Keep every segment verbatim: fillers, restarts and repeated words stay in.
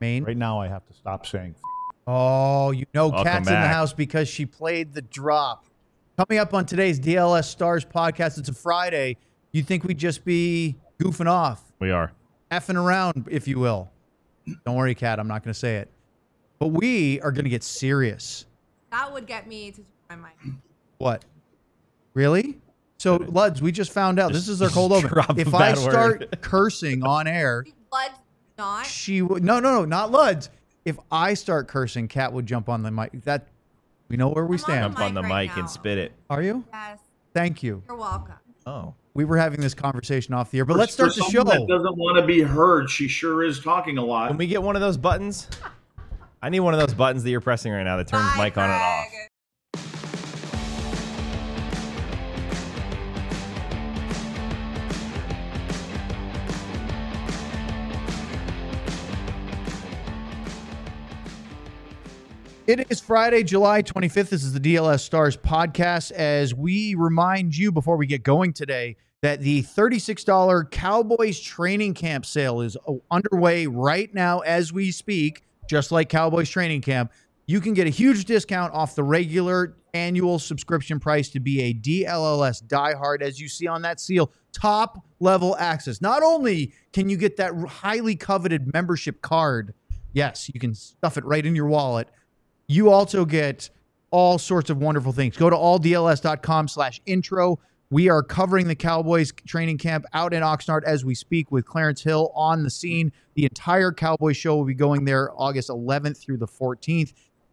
Maine. Right now, I have to stop saying. Oh, you know, Welcome Kat's in the back. house because she played the drop. Coming up on today's D L S Stars podcast, it's a Friday. You think we'd just be goofing off, We are. effing around, if you will. Don't worry, Kat, I'm not going to say it. But we are going to get serious. That would get me to turn my mic. What? Really? So, Luds, we just found out. This is our cold open. drop a If I bad start word. cursing on air, Blood, not. she would. No, no, no, not Luds. If I start cursing, Kat would jump on the mic. That we know where we I'm on stand. Jump on the mic right mic now. and spit it. Are you? Yes, Thank you. you're welcome. Oh. We were having this conversation off the air, but For- let's start for the show. someone That doesn't want to be heard. She sure is talking a lot. Can we get one of those buttons? I need one of those buttons that you're pressing right now that turns Bye, mic on and off. Craig. It is Friday, July twenty-fifth. This is the D L S Stars podcast. As we remind you before we get going today that the thirty-six dollars Cowboys training camp sale is underway right now as we speak, just like Cowboys training camp. You can get a huge discount off the regular annual subscription price to be a D L L S diehard, as you see on that seal. Top level access. Not only can you get that highly coveted membership card, yes, you can stuff it right in your wallet. You also get all sorts of wonderful things. Go to alldls.com slash intro. We are covering the Cowboys training camp out in Oxnard as we speak with Clarence Hill on the scene. The entire Cowboys show will be going there August eleventh through the fourteenth.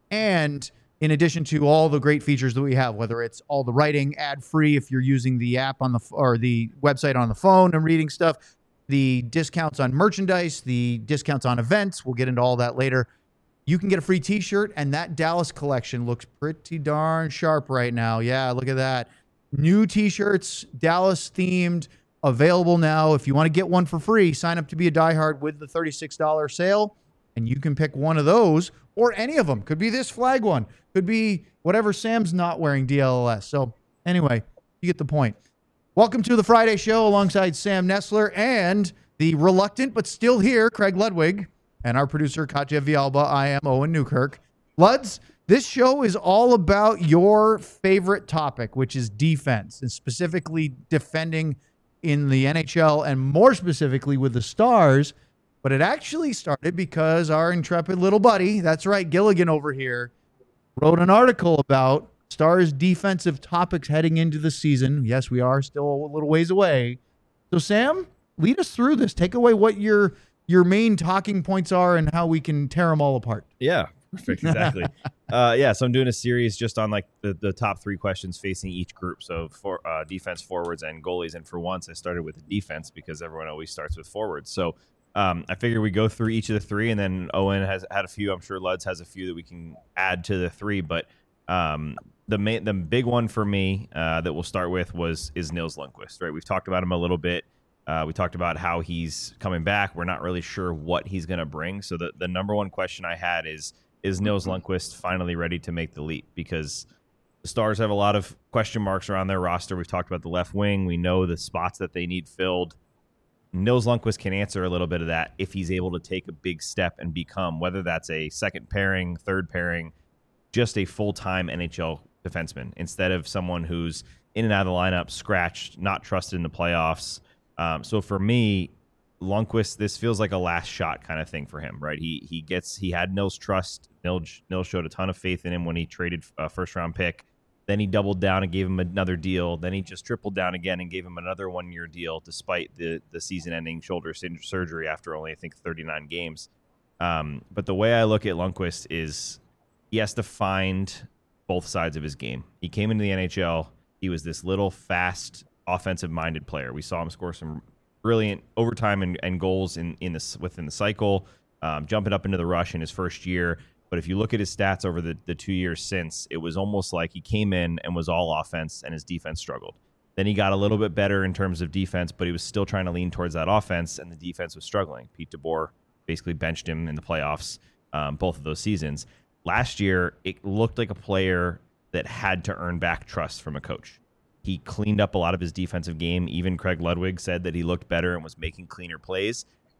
And in addition to all the great features that we have, whether it's all the writing ad-free if you're using the app on the or the website on the phone and reading stuff, the discounts on merchandise, the discounts on events, we'll get into all that later. You can get a free t-shirt, and that Dallas collection looks pretty darn sharp right now. Yeah, look at that. New t-shirts, Dallas-themed, available now. If you want to get one for free, sign up to be a diehard with the thirty-six dollars sale, and you can pick one of those or any of them. Could be this flag one. Could be whatever Sam's not wearing D L L S. So anyway, you get the point. Welcome to the Friday show alongside Sam Nestler and the reluctant but still here, Craig Ludwig. And our producer, Katya Vialba. I am Owen Newkirk. Luds, this show is all about your favorite topic, which is defense, and specifically defending in the N H L, and more specifically with the Stars. But it actually started because our intrepid little buddy, that's right, Gilligan over here, wrote an article about Stars defensive topics heading into the season. Yes, we are still a little ways away. So, Sam, lead us through this. Take away what your your main talking points are and how we can tear them all apart. Yeah, perfect. Exactly. uh, yeah, so I'm doing a series just on like the, the top three questions facing each group. So for uh, defense, forwards, and goalies. And for once, I started with the defense because everyone always starts with forwards. So um, I figured we go through each of the three, and then Owen has had a few. I'm sure Luds has a few that we can add to the three. But um, the main, the big one for me uh, that we'll start with was is Nils Lundkvist. Right, we've talked about him a little bit. Uh, we talked about how he's coming back. We're not really sure what he's going to bring. So the, the number one question I had is, is Nils Lundkvist finally ready to make the leap? Because the Stars have a lot of question marks around their roster. We've talked about the left wing. We know the spots that they need filled. Nils Lundkvist can answer a little bit of that if he's able to take a big step and become, whether that's a second pairing, third pairing, just a full-time N H L defenseman instead of someone who's in and out of the lineup, scratched, not trusted in the playoffs. Um, so for me, Lundkvist, this feels like a last shot kind of thing for him, right? He he gets he had Nils' trust. Nils, Nils showed a ton of faith in him when he traded a first round pick. Then he doubled down and gave him another deal. Then he just tripled down again and gave him another one year deal, despite the the season ending shoulder surgery after only I think thirty-nine games. Um, but the way I look at Lundkvist is he has to find both sides of his game. He came into the N H L. He was this little fast, offensive-minded player. We saw him score some brilliant overtime and, and goals in, in this within the cycle, um, jumping up into the rush in his first year. But if you look at his stats over the, the two years since, it was almost like he came in and was all offense and his defense struggled. Then he got a little bit better in terms of defense, but he was still trying to lean towards that offense, and the defense was struggling. Pete DeBoer basically benched him in the playoffs um, both of those seasons. Last year, it looked like a player that had to earn back trust from a coach. He cleaned up a lot of his defensive game. Even Craig Ludwig said that he looked better and was making cleaner plays.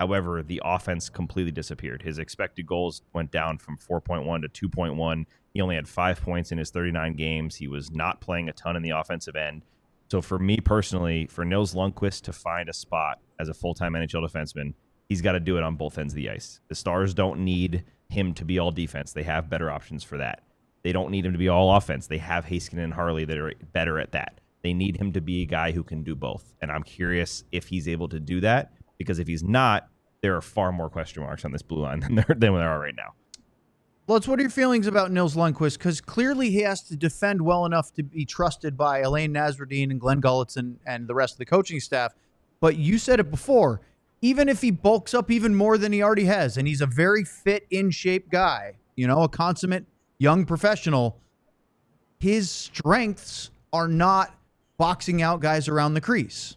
However, the offense completely disappeared. His expected goals went down from four point one to two point one. He only had five points in his thirty-nine games. He was not playing a ton in the offensive end. So for me personally, for Nils Lundkvist to find a spot as a full-time N H L defenseman, he's got to do it on both ends of the ice. The Stars don't need him to be all defense. They have better options for that. They don't need him to be all offense. They have Heiskanen and Harley that are better at that. They need him to be a guy who can do both. And I'm curious if he's able to do that, because if he's not, there are far more question marks on this blue line than there, than there are right now. Lutz, what are your feelings about Nils Lundkvist? Because clearly he has to defend well enough to be trusted by Elaine Nasruddin and Glenn Gulletz and, and the rest of the coaching staff. But you said it before, even if he bulks up even more than he already has, and he's a very fit, in-shape guy, you know, a consummate young professional, his strengths are not boxing out guys around the crease.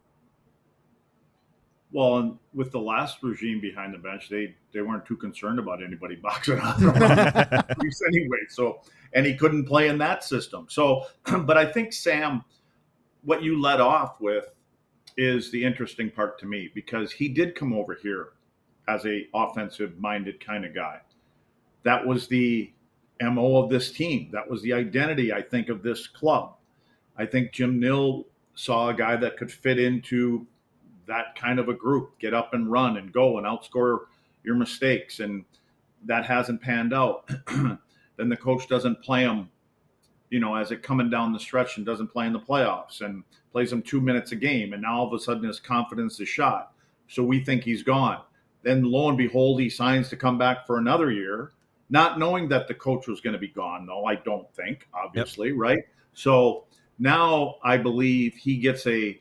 Well, and with the last regime behind the bench, they, they weren't too concerned about anybody boxing out around the crease anyway. So, and he couldn't play in that system. So, but I think, Sam, what you led off with is the interesting part to me, because he did come over here as a offensive-minded kind of guy. That was the M O of this team. That was the identity, I think, of this club. I think Jim Nill saw a guy that could fit into that kind of a group, get up and run and go and outscore your mistakes. And that hasn't panned out. Then the coach doesn't play him, you know, as it coming down the stretch, and doesn't play in the playoffs, and plays him two minutes a game. And now all of a sudden his confidence is shot. So we think he's gone. Then lo and behold, he signs to come back for another year, not knowing that the coach was going to be gone, though, I don't think, obviously, yep. Right? So now I believe he gets a,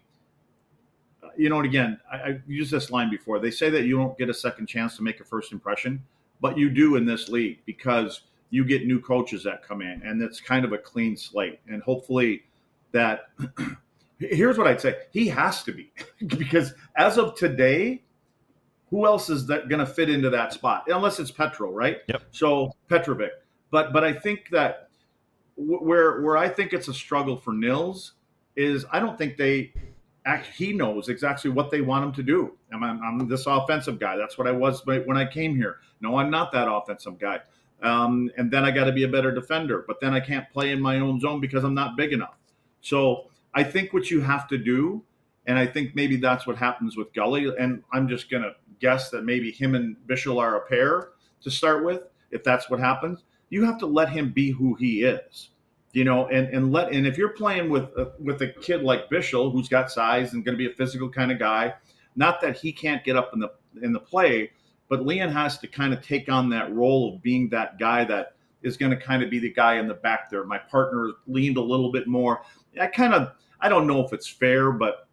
you know, and again, I, I used this line before. They say that you don't get a second chance to make a first impression, but you do in this league, because you get new coaches that come in, and it's kind of a clean slate. And hopefully that – here's what I'd say. He has to be, because as of today, who else is that going to fit into that spot? Unless it's Petro, right? Yep. So Petrovic. But but I think that w- where where I think it's a struggle for Nils is I don't think they – he knows exactly what they want him to do. I'm, I'm this offensive guy. That's what I was when I came here. No, I'm not that offensive guy. Um, and then I got to be a better defender. But then I can't play in my own zone because I'm not big enough. So I think what you have to do, and I think maybe that's what happens with Gully, and I'm just going to guess that maybe him and Bichsel are a pair to start with, if that's what happens. You have to let him be who he is. You know, and, and let and if you're playing with a, with a kid like Bichsel, who's got size and going to be a physical kind of guy, not that he can't get up in the in the play, but Leon has to kind of take on that role of being that guy that is going to kind of be the guy in the back there. My partner leaned a little bit more. I kind of I don't know if it's fair, but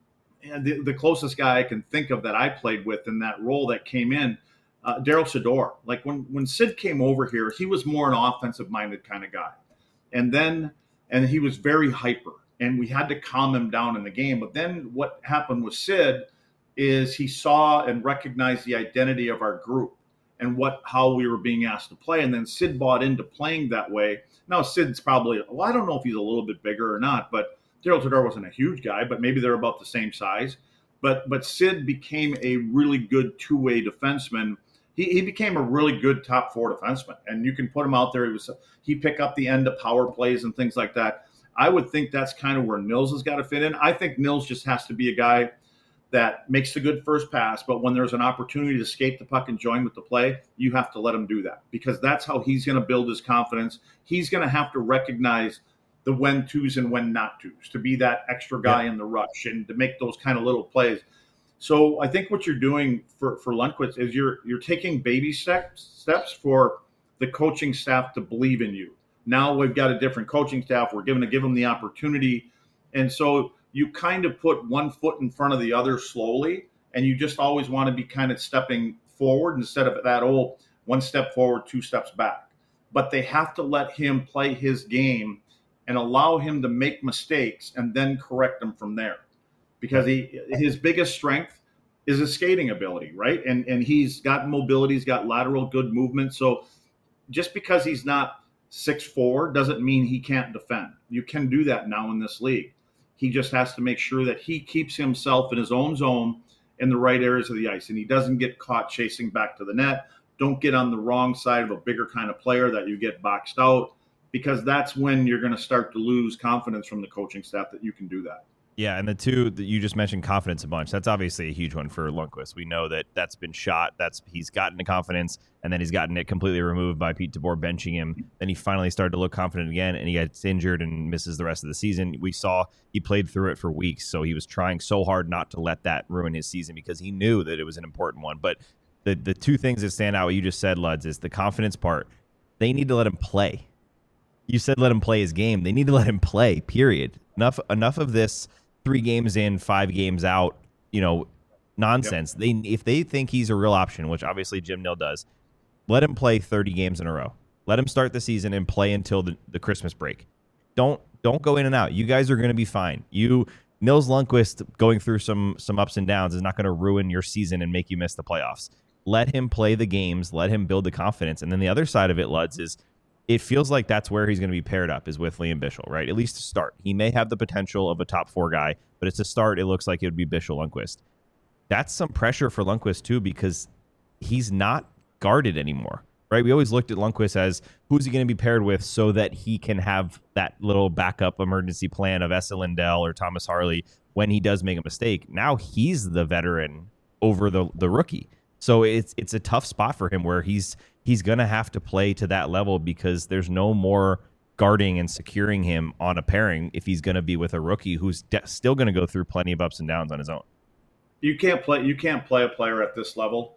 the, the closest guy I can think of that I played with in that role that came in, uh, Daryl Sador. Like when when Sid came over here, he was more an offensive minded kind of guy. And then, and he was very hyper, and we had to calm him down in the game. But then what happened with Sid is he saw and recognized the identity of our group and what, how we were being asked to play. And then Sid bought into playing that way. Now Sid's probably, well, I don't know if he's a little bit bigger or not, but Daryl Tador wasn't a huge guy, but maybe they're about the same size. But, but Sid became a really good two-way defenseman. He, he became a really good top four defenseman, and you can put him out there. He was he pick up the end of power plays and things like that. I would think that's kind of where Nils has got to fit in. I think Nils just has to be a guy that makes the good first pass, but when there's an opportunity to skate the puck and join with the play, you have to let him do that, because that's how he's going to build his confidence. He's going to have to recognize the when tos and when not tos, to be that extra guy yeah. in the rush and to make those kind of little plays. So I think what you're doing for, for Lundkvist is you're you're taking baby steps steps for the coaching staff to believe in you. Now we've got a different coaching staff. We're going to give them the opportunity. And so you kind of put one foot in front of the other slowly, and you just always want to be kind of stepping forward instead of that old one step forward, two steps back. But they have to let him play his game and allow him to make mistakes and then correct them from there. Because he his biggest strength is his skating ability, right? And and he's got mobility, he's got lateral good movement. So just because he's not six foot four doesn't mean he can't defend. You can do that now in this league. He just has to make sure that he keeps himself in his own zone in the right areas of the ice, and he doesn't get caught chasing back to the net. Don't get on the wrong side of a bigger kind of player that you get boxed out, because that's when you're going to start to lose confidence from the coaching staff that you can do that. Yeah, and the two that you just mentioned, confidence a bunch. That's obviously a huge one for Lundqvist. We know that that's been shot. That's he's gotten the confidence, and then he's gotten it completely removed by Pete DeBoer benching him. Then he finally started to look confident again, and he gets injured and misses the rest of the season. We saw he played through it for weeks, so he was trying so hard not to let that ruin his season because he knew that it was an important one. But the the two things that stand out, what you just said, Luds, is the confidence part. They need to let him play. You said let him play his game. They need to let him play, period. Enough enough of this three games in, five games out, you know, nonsense. Yep. They if they think he's a real option, which obviously Jim Nill does, let him play thirty games in a row. Let him start the season and play until the, the Christmas break. Don't don't go in and out. You guys are going to be fine. You Nils Lundqvist going through some some ups and downs is not going to ruin your season and make you miss the playoffs. Let him play the games. Let him build the confidence. And then the other side of it, Luds, is it feels like that's where he's going to be paired up, is with Liam Bichsel, right? At least to start. He may have the potential of a top four guy, but it's a start. It looks like it would be Bichsel Lundqvist. That's some pressure for Lundqvist, too, because he's not guarded anymore, right? We always looked at Lundqvist as who's he going to be paired with so that he can have that little backup emergency plan of Esa Lindell or Thomas Harley when he does make a mistake. Now he's the veteran over the, the rookie. So it's it's a tough spot for him where he's he's going to have to play to that level because there's no more guarding and securing him on a pairing if he's going to be with a rookie who's de- still going to go through plenty of ups and downs on his own. You can't play you can't play a player at this level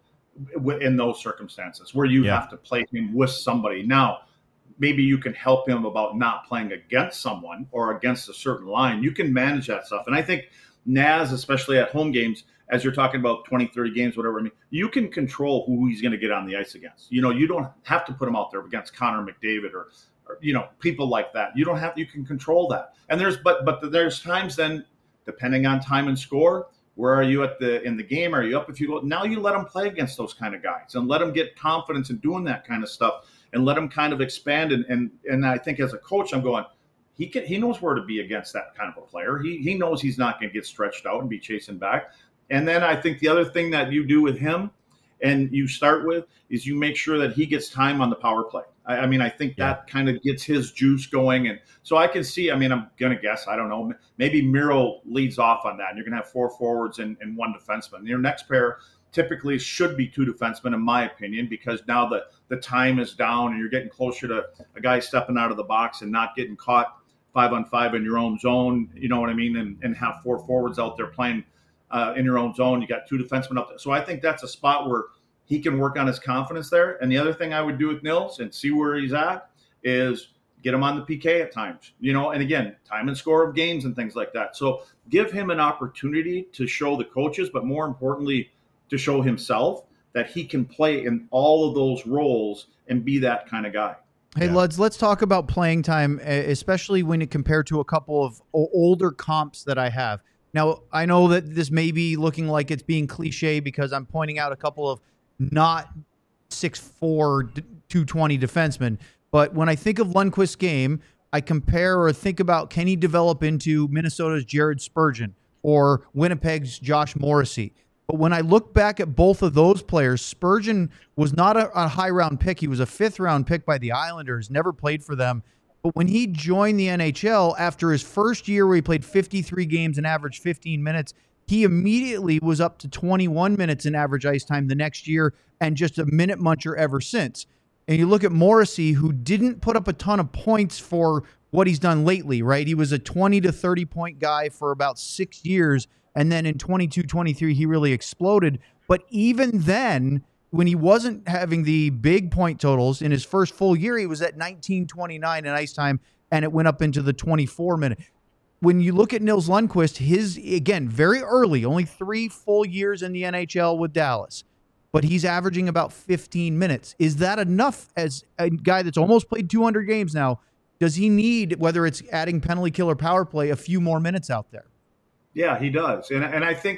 in those circumstances where you yeah. have to play him with somebody. Now, maybe you can help him about not playing against someone or against a certain line. You can manage that stuff. And I think Naz, especially at home games, as you're talking about twenty, thirty games, whatever, I mean, you can control who he's going to get on the ice against. You know, you don't have to put him out there against Connor McDavid or, or, you know, people like that. You don't have, you can control that. And there's, but, but there's times then, depending on time and score, where are you at the, in the game? Are you up if you go, now you let him play against those kind of guys and let him get confidence in doing that kind of stuff and let him kind of expand. And, and, and I think as a coach, I'm going, he can, he knows where to be against that kind of a player. He, he knows he's not going to get stretched out and be chasing back. And then I think the other thing that you do with him and you start with is you make sure that he gets time on the power play. I, I mean, I think yeah. that kind of gets his juice going. And so I can see, I mean, I'm going to guess, I don't know, maybe Miro leads off on that. And you're going to have four forwards and, and one defenseman. Your next pair typically should be two defensemen, in my opinion, because now the, the time is down and you're getting closer to a guy stepping out of the box and not getting caught five on five in your own zone. You know what I mean? And, and have four forwards out there playing Uh, in your own zone. You got two defensemen up there. So I think that's a spot where he can work on his confidence there. And the other thing I would do with Nils and see where he's at is get him on the P K at times, you know, and again, time and score of games and things like that. So give him an opportunity to show the coaches, but more importantly, to show himself that he can play in all of those roles and be that kind of guy. Hey, yeah. Luds, let's talk about playing time, especially when it compared to a couple of older comps that I have. Now, I know that this may be looking like it's being cliche because I'm pointing out a couple of not six four, two twenty defensemen. But when I think of Lundqvist's game, I compare or think about, can he develop into Minnesota's Jared Spurgeon or Winnipeg's Josh Morrissey? But when I look back at both of those players, Spurgeon was not a, a high-round pick. He was a fifth-round pick by the Islanders, never played for them. But when he joined the N H L after his first year where he played fifty-three games and averaged fifteen minutes, he immediately was up to twenty-one minutes in average ice time the next year and just a minute muncher ever since. And you look at Morrissey, who didn't put up a ton of points for what he's done lately, right? He was a twenty to thirty point guy for about six years. And then in twenty-two twenty-three, he really exploded. But even then, when he wasn't having the big point totals in his first full year, he was at nineteen twenty-nine in ice time, and it went up into the twenty-four minute. When you look at Nils Lundqvist, his, again, very early, only three full years in the N H L with Dallas, but he's averaging about fifteen minutes. Is that enough as a guy that's almost played two hundred games now? Does he need, whether it's adding penalty kill or power play, a few more minutes out there? Yeah, he does. And, and I think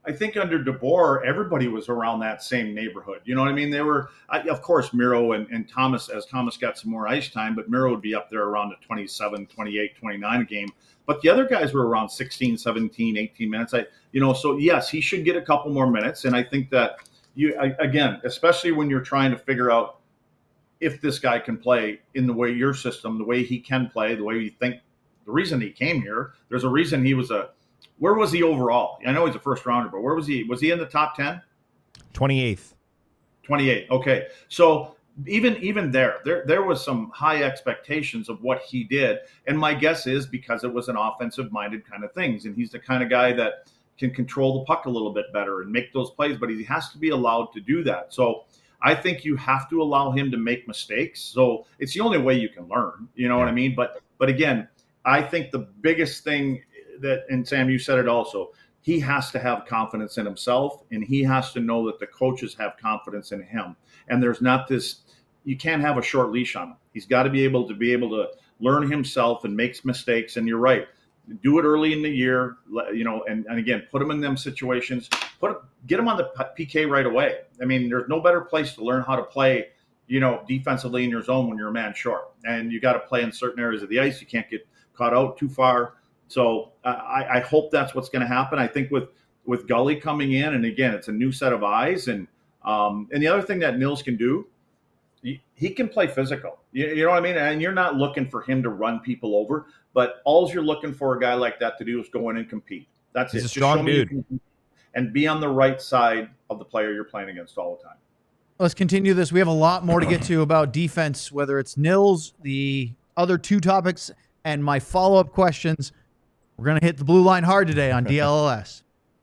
I think under DeBoer, everybody was around that same neighborhood. You know what I mean? They were, I, of course, Miro and, and Thomas, as Thomas got some more ice time, but Miro would be up there around the twenty-seven, twenty-eight, twenty-nine a game. But the other guys were around sixteen, seventeen, eighteen minutes. I, you know, so yes, he should get a couple more minutes. And I think that you, I, again, especially when you're trying to figure out if this guy can play in the way your system, the way he can play, the way you think, the reason he came here, there's a reason he was a, where was he overall? I know he's a first rounder, but where was he? Was he in the top ten? twenty-eighth. twenty-eight. Okay. So even even there, there there was some high expectations of what he did. And my guess is because it was an offensive-minded kind of things. And he's the kind of guy that can control the puck a little bit better and make those plays, but he has to be allowed to do that. So I think you have to allow him to make mistakes. So it's the only way you can learn. You know what I mean? But but again, I think the biggest thing that, and Sam, you said it also, he has to have confidence in himself, and he has to know that the coaches have confidence in him. And there's not this, you can't have a short leash on him. He's got to be able to be able to learn himself and make mistakes. And you're right, do it early in the year, you know, and, and again, put him in them situations, put get him on the P K right away. I mean, there's no better place to learn how to play, you know, defensively in your zone when you're a man short. And you got to play in certain areas of the ice. You can't get caught out too far. So uh, I, I hope that's what's going to happen. I think with, with Gully coming in, and again, it's a new set of eyes. And um, and the other thing that Nils can do, he, he can play physical. You, you know what I mean? And you're not looking for him to run people over, but all you're looking for a guy like that to do is go in and compete. That's He's it. a strong dude. And be on the right side of the player you're playing against all the time. Let's continue this. We have a lot more to get to about defense, whether it's Nils, the other two topics, and my follow-up questions. We're going to hit the blue line hard today on D L L S.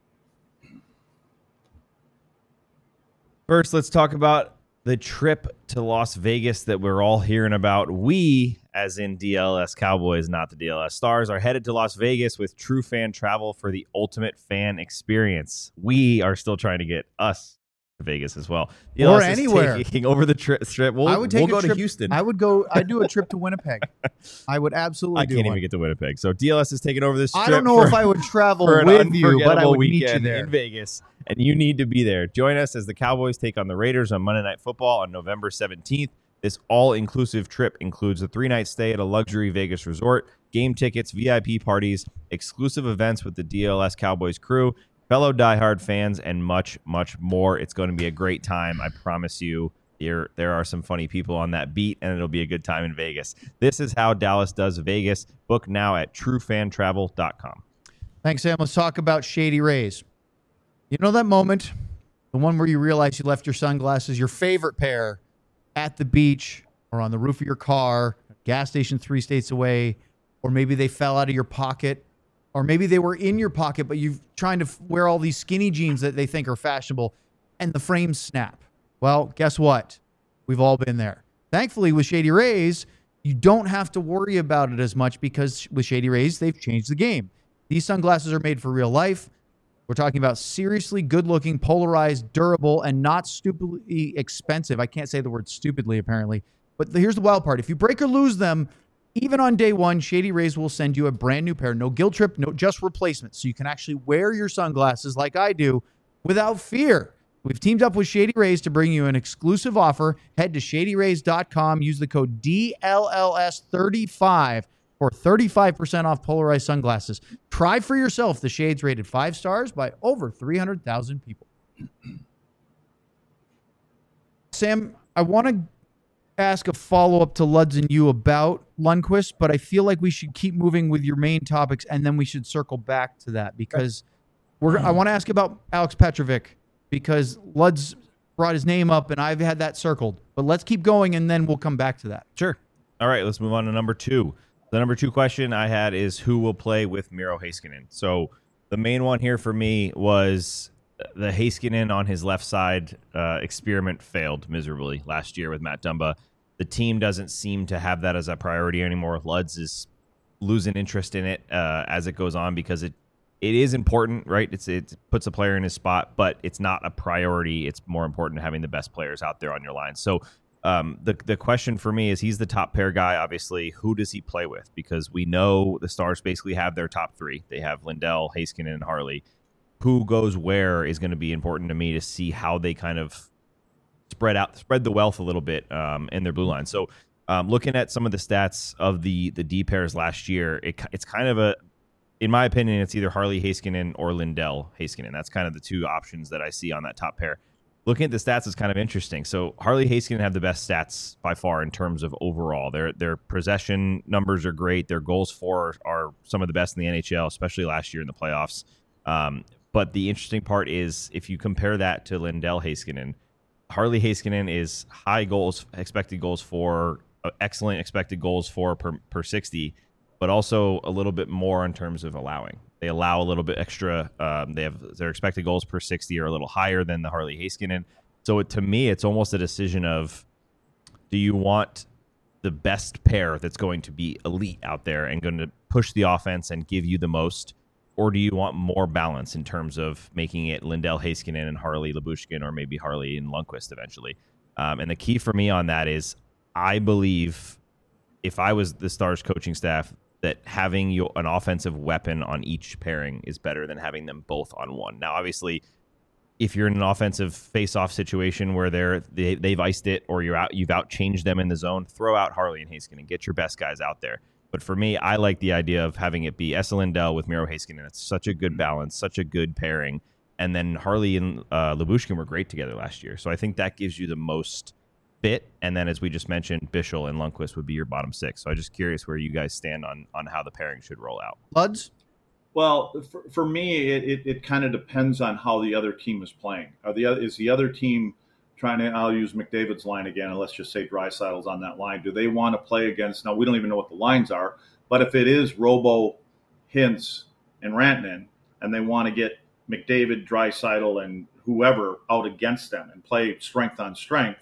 First, let's talk about the trip to Las Vegas that we're all hearing about. We, as in D L S Cowboys, not the D L S Stars, are headed to Las Vegas with True Fan Travel for the ultimate fan experience. We are still trying to get us to Vegas as well. D L S or anywhere. Taking over the tri- strip. We'll, I would take we'll a go trip, to Houston. I would go. I'd do a trip to Winnipeg. I would absolutely I do can't one. even get to Winnipeg. So D L S is taking over this strip. I don't know for, if I would travel for an with you, but I unforgettable would meet you weekend there. in Vegas, and you need to be there. Join us as the Cowboys take on the Raiders on Monday Night Football on November seventeenth. This all-inclusive trip includes a three-night stay at a luxury Vegas resort, game tickets, V I P parties, exclusive events with the D L S Cowboys crew, fellow diehard fans, and much, much more. It's going to be a great time. I promise you. There, there are some funny people on that beat, and it'll be a good time in Vegas. This is how Dallas does Vegas. Book now at true fan travel dot com. Thanks, Sam. Let's talk about Shady Rays. You know that moment, the one where you realize you left your sunglasses, your favorite pair, at the beach or on the roof of your car, gas station three states away, or maybe they fell out of your pocket, or maybe they were in your pocket, but you're trying to wear all these skinny jeans that they think are fashionable, and the frames snap. Well, guess what? We've all been there. Thankfully, with Shady Rays, you don't have to worry about it as much because with Shady Rays, they've changed the game. These sunglasses are made for real life. We're talking about seriously good-looking, polarized, durable, and not stupidly expensive. I can't say the word stupidly, apparently. But the, here's the wild part. If you break or lose them, even on day one, Shady Rays will send you a brand new pair. No guilt trip, no just replacement. So you can actually wear your sunglasses like I do without fear. We've teamed up with Shady Rays to bring you an exclusive offer. Head to shady rays dot com. Use the code D L L S thirty-five for thirty-five percent off polarized sunglasses. Try for yourself the shades rated five stars by over three hundred thousand people. Sam, I want to ask a follow-up to Luds and you about Lundqvist, but I feel like we should keep moving with your main topics, and then we should circle back to that because we're. I want to ask about Alex Petrovic because Luds brought his name up, and I've had that circled. But let's keep going, and then we'll come back to that. Sure. All right, let's move on to number two. The number two question I had is who will play with Miro Heiskanen? So the main one here for me was the Heiskanen on his left side uh, experiment failed miserably last year with Matt Dumba. The team doesn't seem to have that as a priority anymore. Luds is losing interest in it uh, as it goes on because it it is important, right? It's it puts a player in his spot, but it's not a priority. It's more important having the best players out there on your line. So um, the the question for me is he's the top pair guy, obviously. Who does he play with? Because we know the Stars basically have their top three. They have Lindell, Heiskanen, and Harley. who goes where is going to be important to me to see how they kind of spread out, spread the wealth a little bit um, in their blue line. So um, looking at some of the stats of the the D pairs last year, it, it's kind of a, in my opinion, it's either Harley Heiskanen or Lindell Heiskanen. That's kind of the two options that I see on that top pair. Looking at the stats is kind of interesting. So Harley Heiskanen have the best stats by far in terms of overall. Their their possession numbers are great. Their goals for are, are some of the best in the N H L, especially last year in the playoffs. Um, but the interesting part is if you compare that to Lindell Heiskanen, Harley Heiskanen is high goals, expected goals for, uh, excellent expected goals for per, per sixty, but also a little bit more in terms of allowing. They allow a little bit extra. Um, they have their expected goals per sixty are a little higher than the Harley Heiskanen. So it, to me, it's almost a decision of, do you want the best pair that's going to be elite out there and going to push the offense and give you the most, or do you want more balance in terms of making it Lindell Heiskanen and Harley Lyubushkin, or maybe Harley and Lundqvist eventually? Um, and the key for me on that is, I believe if I was the Stars coaching staff, that having your, an offensive weapon on each pairing is better than having them both on one. Now, obviously, if you're in an offensive face-off situation where they're they, they've iced it, or you're out, you've out-changed them in the zone, throw out Harley and Heiskanen and get your best guys out there. But for me, I like the idea of having it be Esa Lindell with Miro Heiskanen. It's such a good balance, such a good pairing. And then Harley and uh, Lyubushkin were great together last year. So I think that gives you the most fit. And then, as we just mentioned, Bichel and Lundqvist would be your bottom six. So I'm just curious where you guys stand on on how the pairing should roll out. Luds? Well, for, for me, it, it, it kind of depends on how the other team is playing. Are the is the other team trying to, I'll use McDavid's line again, and let's just say Draisaitl's on that line. Do they want to play against, now we don't even know what the lines are, but if it is Robo, Hintz, and Rantanen, and they want to get McDavid, Draisaitl, and whoever out against them and play strength on strength,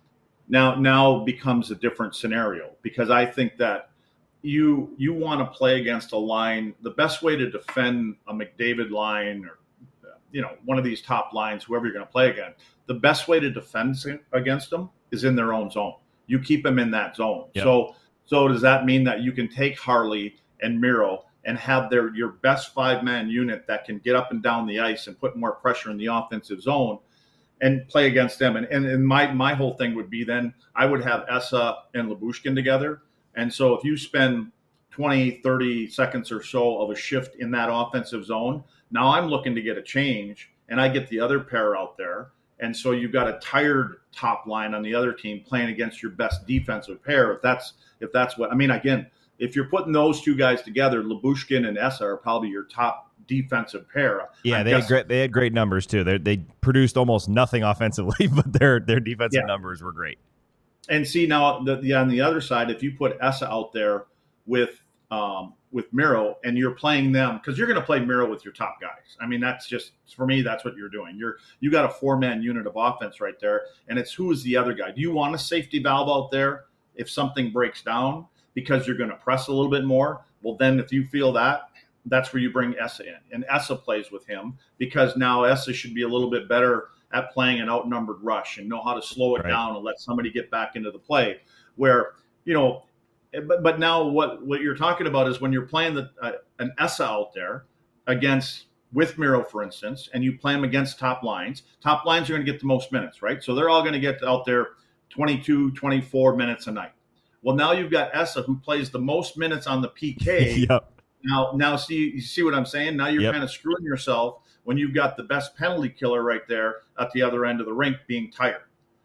now now becomes a different scenario, because I think that you you want to play against a line. The best way to defend a McDavid line, or you know, one of these top lines, whoever you're going to play against, the best way to defend against them is in their own zone. You keep them in that zone. Yep. So so does that mean that you can take Harley and Miro and have their your best five-man unit that can get up and down the ice and put more pressure in the offensive zone and play against them? And, and, and my, my whole thing would be, then I would have Esa and Lyubushkin together. And so if you spend twenty, thirty seconds or so of a shift in that offensive zone, now I'm looking to get a change, and I get the other pair out there. And so you've got a tired top line on the other team playing against your best defensive pair. If that's if that's what I mean, again, if you're putting those two guys together, Lyubushkin and Esa are probably your top defensive pair. Yeah, I'm they guessing. had great. They had great numbers too. They they produced almost nothing offensively, but their their defensive Yeah. numbers were great. And see now, the, the on the other side, if you put Esa out there with um, with Miro, and you're playing them, because you're going to play Miro with your top guys. I mean, that's just, for me, that's what you're doing. You're you got a four man unit of offense right there, and it's who is the other guy. Do you want a safety valve out there if something breaks down, because you're going to press a little bit more? Well, then if you feel that, that's where you bring Esa in, and Esa plays with him, because now Esa should be a little bit better at playing an outnumbered rush and know how to slow it Right. down and let somebody get back into the play. Where, you know, but, but now what, what you're talking about is when you're playing the, uh, an Esa out there against, with Miro, for instance, and you play them against top lines, top lines are going to get the most minutes, right? So they're all going to get out there twenty-two, twenty-four minutes a night. Well, now you've got Esa, who plays the most minutes on the P K. Yep. Now, now, see, you see what I'm saying? Now you're Yep. kind of screwing yourself when you've got the best penalty killer right there at the other end of the rink being tired.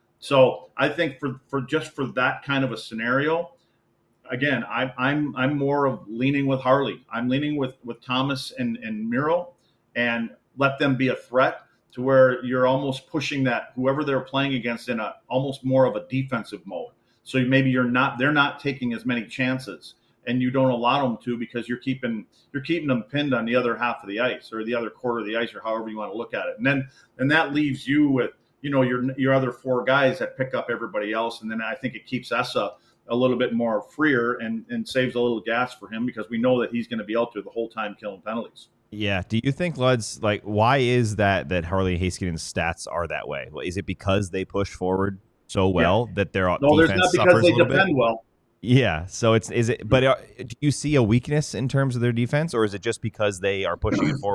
So I think for, for just for that kind of a scenario, again, I, I'm I'm more of leaning with Harley. I'm leaning with, with Thomas and, and Miro, and let them be a threat to where you're almost pushing that whoever they're playing against in a almost more of a defensive mode. So maybe you're not they're not taking as many chances, and you don't allow them to, because you're keeping you're keeping them pinned on the other half of the ice, or the other quarter of the ice, or however you want to look at it. And then and that leaves you with, you know, your your other four guys that pick up everybody else. And then I think it keeps Esa a little bit more freer, and, and saves a little gas for him, because we know that he's going to be out there the whole time killing penalties. Yeah. Do you think, Luds, like, why is that that Harley Heiskanen's stats are that way? Is it because they push forward so well Yeah. that their No, there's defense not, because suffers they a little defend bit? well. Yeah. So it's is it? But uh, do you see a weakness in terms of their defense, or is it just because they are pushing it forward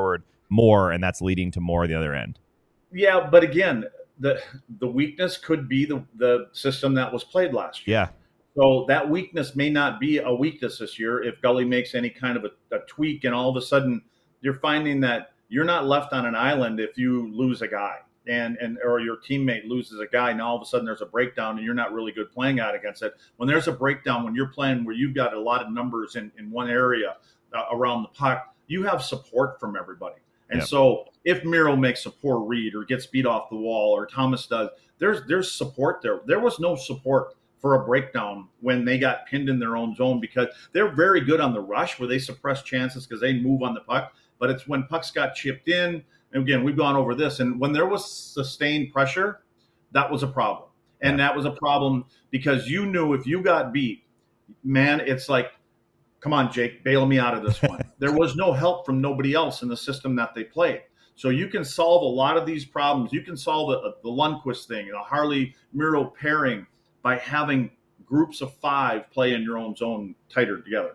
more, and that's leading to more at the other end. Yeah, but again, the the weakness could be the the system that was played last year. Yeah. So that weakness may not be a weakness this year if Gully makes any kind of a, a tweak, and all of a sudden you're finding that you're not left on an island if you lose a guy and and or your teammate loses a guy. Now all of a sudden there's a breakdown and you're not really good playing out against it. When there's a breakdown, when you're playing where you've got a lot of numbers in, in one area uh, around the puck, you have support from everybody. And Yep. so if Miro makes a poor read or gets beat off the wall or Thomas does, there's there's support there. There was no support for a breakdown when they got pinned in their own zone because they're very good on the rush where they suppress chances because they move on the puck. But it's when pucks got chipped in. And again, we've gone over this. And when there was sustained pressure, that was a problem. And Yeah. that was a problem because you knew if you got beat, man, it's like, come on, Jake, bail me out of this one. There was no help from nobody else in the system that they played. So you can solve a lot of these problems. You can solve the, the Lundqvist thing, the Harley-Miro pairing by having groups of five play in your own zone tighter together.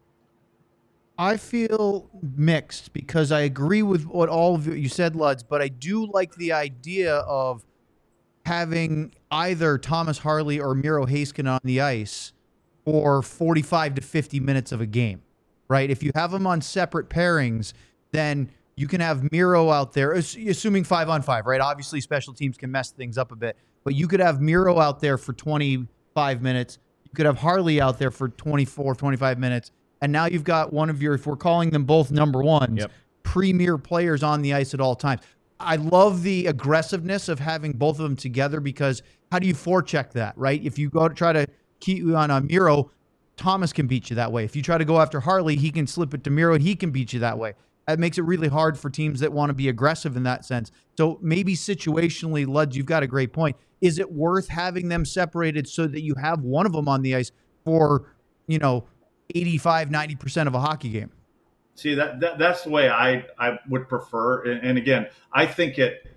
I feel mixed because I agree with what all of you said, Luds, but I do like the idea of having either Thomas Harley or Miro Heiskanen on the ice for forty-five to fifty minutes of a game, right? If you have them on separate pairings, then you can have Miro out there, assuming five on five, right? Obviously, special teams can mess things up a bit, but you could have Miro out there for twenty-five minutes. You could have Harley out there for twenty-four, twenty-five minutes. And now you've got one of your, if we're calling them both number ones, Yep. premier players on the ice at all times. I love the aggressiveness of having both of them together because how do you forecheck that, right? If you go to try to keep you on a Miro, Thomas can beat you that way. If you try to go after Harley, he can slip it to Miro and he can beat you that way. That makes it really hard for teams that want to be aggressive in that sense. So maybe situationally, Luds, you've got a great point. Is it worth having them separated so that you have one of them on the ice for, you know, eighty-five, ninety percent of a hockey game? See, that, that that's the way I, I would prefer. And, and again, I think it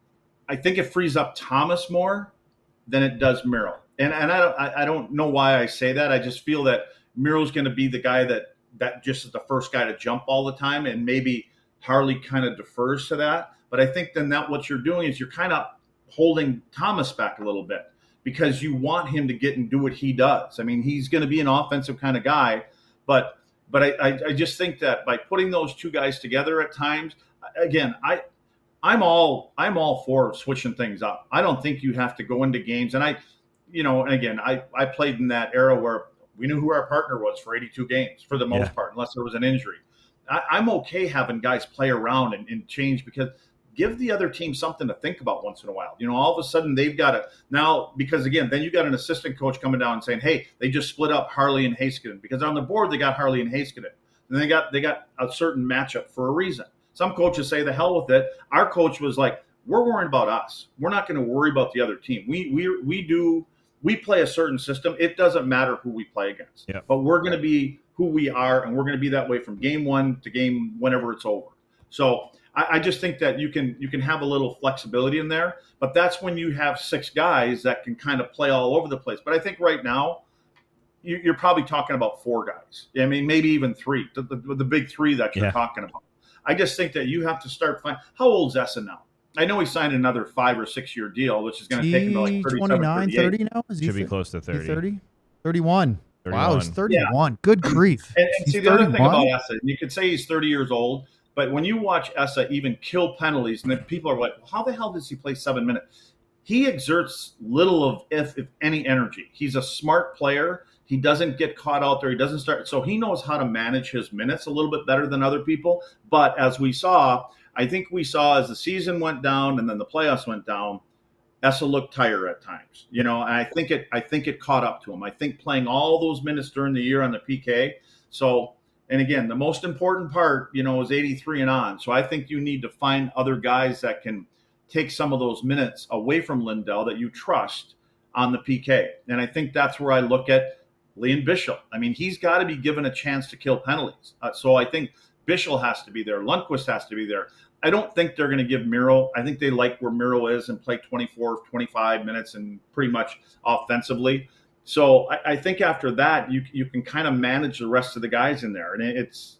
I think it frees up Thomas more than it does Miro. And and I don't I, I don't know why I say that. I just feel that Miro's going to be the guy that that just is the first guy to jump all the time, and maybe Harley kind of defers to that. But I think then that what you're doing is you're kind of holding Thomas back a little bit because you want him to get and do what he does. I mean, he's going to be an offensive kind of guy, but but I, I, I just think that by putting those two guys together at times, again, I I'm all I'm all for switching things up. I don't think you have to go into games, and I, you know, and again, I I played in that era where we knew who our partner was for eighty-two games for the most Yeah. part, unless there was an injury. I, I'm okay having guys play around and, and change because give the other team something to think about once in a while. You know, all of a sudden they've got to now because again, then you got an assistant coach coming down and saying, "Hey, they just split up Harley and Heiskanen because on the board they got Harley and Heiskanen, and they got they got a certain matchup for a reason." Some coaches say, "The hell with it." Our coach was like, "We're worrying about us. We're not going to worry about the other team. We we we do." We play a certain system. It doesn't matter who we play against, Yeah. but we're going to be who we are, and we're going to be that way from game one to game whenever it's over. So I, I just think that you can you can have a little flexibility in there, but that's when you have six guys that can kind of play all over the place. But I think right now you, you're probably talking about four guys. I mean, maybe even three, the, the, the big three that you're Yeah. talking about. I just think that you have to start finding. How old's Essa now? I know he signed another five or six year deal, which is going to take him to like thirty-seven, twenty-nine, thirty-eight. thirty now? Is he Should be thi- close to is he thirty. thirty? thirty-one. Wow, he's thirty-one. thirty-one. Good grief. And, and He's see, the other thing thirty-one? about Essa, you could say he's thirty years old, but when you watch Essa even kill penalties, and then people are like, well, how the hell does he play seven minutes? He exerts little of, if, if any, energy. He's a smart player. He doesn't get caught out there. He doesn't start. So he knows how to manage his minutes a little bit better than other people. But as we saw, I think we saw as the season went down and then the playoffs went down, Essa looked tired at times, you know, and I think it, I think it caught up to him. I think playing all those minutes during the year on the P K. So, and again, the most important part, you know, is eighty-three and on. So I think you need to find other guys that can take some of those minutes away from Lindell that you trust on the P K. And I think that's where I look at Liam Bichsel. I mean, he's got to be given a chance to kill penalties. Uh, so I think Bichsel has to be there. Lundqvist has to be there. I don't think they're going to give Miro. I think they like where Miro is and play twenty-four, twenty-five minutes and pretty much offensively. So I, I think after that, you you can kind of manage the rest of the guys in there. And it's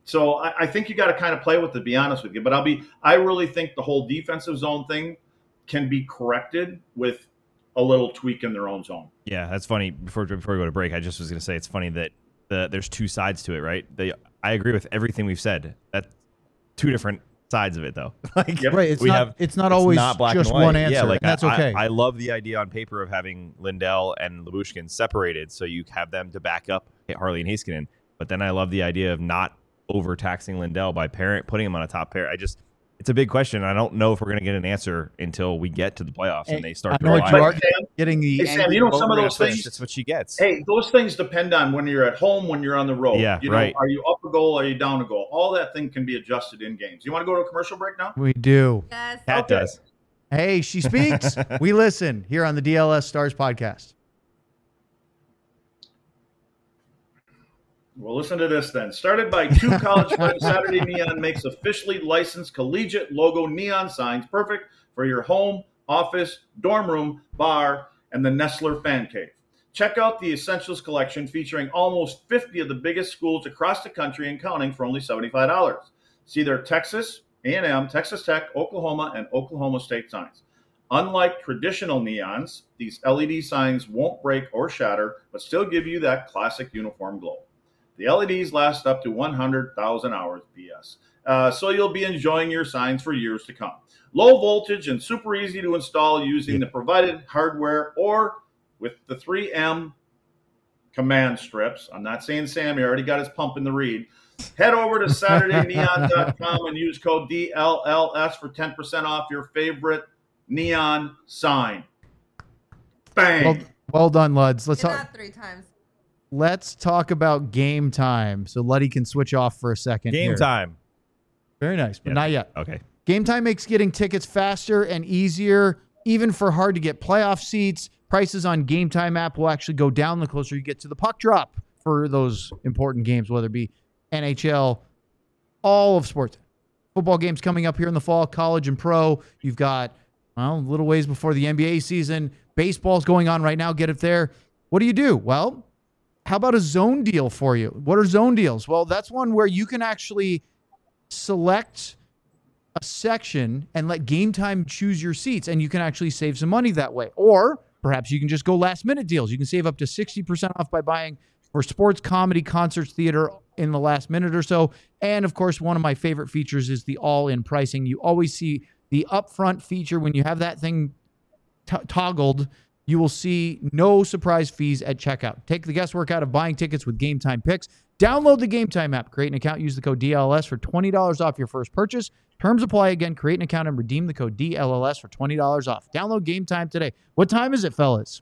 So I, I think you got to kind of play with it, to be honest with you. But I'll be, I really think the whole defensive zone thing can be corrected with a little tweak in their own zone. Yeah, that's funny. Before before we go to break, I just was going to say it's funny that the, there's two sides to it, right? They, I agree with everything we've said. That's two different sides of it, though. Like, Yep. Right. It's we not. have- it's not it's always not black just and white. one answer. Yeah, like and that's I, okay. I, I love the idea on paper of having Lindell and Labushkin separated, so you have them to back up Harley and Heiskanen. But then I love the idea of not overtaxing Lindell by parent putting him on a top pair. I just, it's a big question. I don't know if we're going to get an answer until we get to the playoffs and, And they start I to know what rely. you are Sam, getting the. Hey, Sam, angry you know some of voter those answer. things- That's what she gets. Hey, those things depend on when you're at home, when you're on the road. Yeah, you know, right. Are you up a goal? Are you down a goal? All that thing can be adjusted in games. You want to go to a commercial break now? We do. Yes. Cat Okay. does. Hey, she speaks. We listen here on the D L S Stars podcast. Well, listen to this then. Started by two college friends, Saturday Neon makes officially licensed collegiate logo neon signs perfect for your home, office, dorm room, bar, and the Nestler fan cave. Check out the Essentials collection featuring almost fifty of the biggest schools across the country and counting for only seventy-five dollars. See their Texas A and M, Texas Tech, Oklahoma, and Oklahoma State signs. Unlike traditional neons, these L E D signs won't break or shatter, but still give you that classic uniform glow. The L E Ds last up to one hundred thousand hours P S, uh, so you'll be enjoying your signs for years to come. Low voltage and super easy to install using the provided hardware or with the three M command strips. I'm not saying Sam, he already got his pump in the read. Head over to Saturday Neon dot com and use code D L L S for ten percent off your favorite neon sign. Bang! Well, well done, Luds. Let's Did talk. that three times. Let's talk about game time. So Luddy can switch off for a second. Game here. time. Very nice, but Yeah. not yet. Okay. Game time makes getting tickets faster and easier, even for hard to get playoff seats. Prices on Game Time app will actually go down the closer you get to the puck drop for those important games, whether it be N H L, all of sports. Football games coming up here in the fall, college and pro. You've got, well, a little ways before the N B A season. Baseball's going on right now. Get it there. What do you do? Well, how about a zone deal for you? What are zone deals? Well, that's one where you can actually select a section and let Game Time choose your seats, and you can actually save some money that way. Or perhaps you can just go last minute deals. You can save up to sixty percent off by buying for sports, comedy, concerts, theater in the last minute or so. And of course, one of my favorite features is the all-in pricing. You always see the upfront feature when you have that thing t- toggled. You will see no surprise fees at checkout. Take the guesswork out of buying tickets with Game Time Picks. Download the Game Time app, create an account, use the code D L L S for twenty dollars off your first purchase. Terms apply. Again, create an account and redeem the code D L L S for twenty dollars off. Download Game Time today. What time is it, fellas?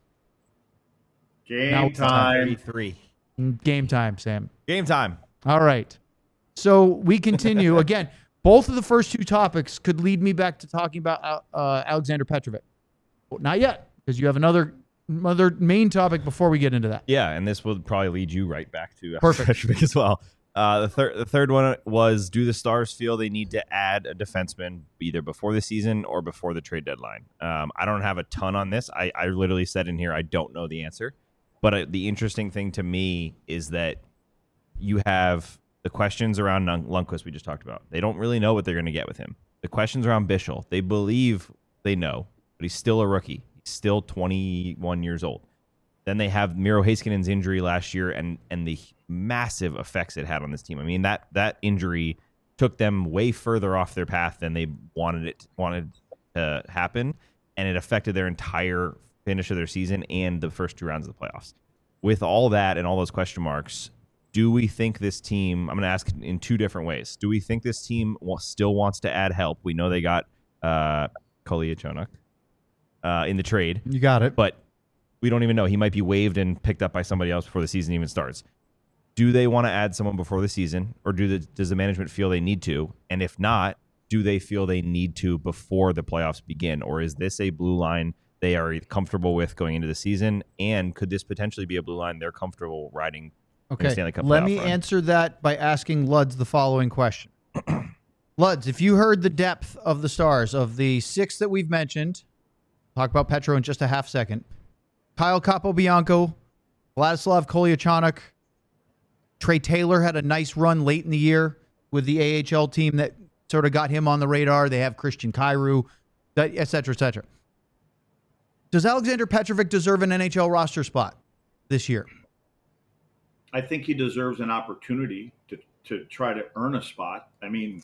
Game Now- time. thirty-three. Game time, Sam. Game time. All right. So we continue. Again, both of the first two topics could lead me back to talking about uh, Alexander Petrovic. Well, not yet, because you have another another main topic before we get into that. Yeah, and this will probably lead you right back to Perfect. Petrovic as well. Uh, the third, the third one was: do the Stars feel they need to add a defenseman either before the season or before the trade deadline? Um, I don't have a ton on this. I, I literally said in here I don't know the answer. But uh, the interesting thing to me is that you have the questions around Lund- Lundqvist we just talked about. They don't really know what they're going to get with him. The questions around Bischel, they believe they know, but he's still a rookie. He's still twenty-one years old. Then they have Miro Heiskanen's injury last year and and the massive effects it had on this team. I mean, that that injury took them way further off their path than they wanted it wanted to happen, and it affected their entire finish of their season and the first two rounds of the playoffs. With all that and all those question marks, do we think this team, I'm going to ask in two different ways. Do we think this team wa- still wants to add help? We know they got uh, Kolyachonok uh, in the trade, You got it. but we don't even know. He might be waived and picked up by somebody else before the season even starts. Do they want to add someone before the season, or do the, does the management feel they need to? And if not, do they feel they need to before the playoffs begin? Or is this a blue line they are comfortable with going into the season? And could this potentially be a blue line they're comfortable riding? Okay, Stanley Cup let playoff me run? answer that by asking Luds the following question. Luds, if you heard the depth of the Stars, of the six that we've mentioned, talk about Petro in just a half second, Kyle Capobianco, Vladislav Kolyachonok, Trey Taylor had a nice run late in the year. with the A H L team that sort of got him on the radar. They have Christian Kyrou, that, et cetera, et cetera. Does Alexander Petrovic deserve an N H L roster spot this year? I think he deserves an opportunity to, to try to earn a spot. I mean,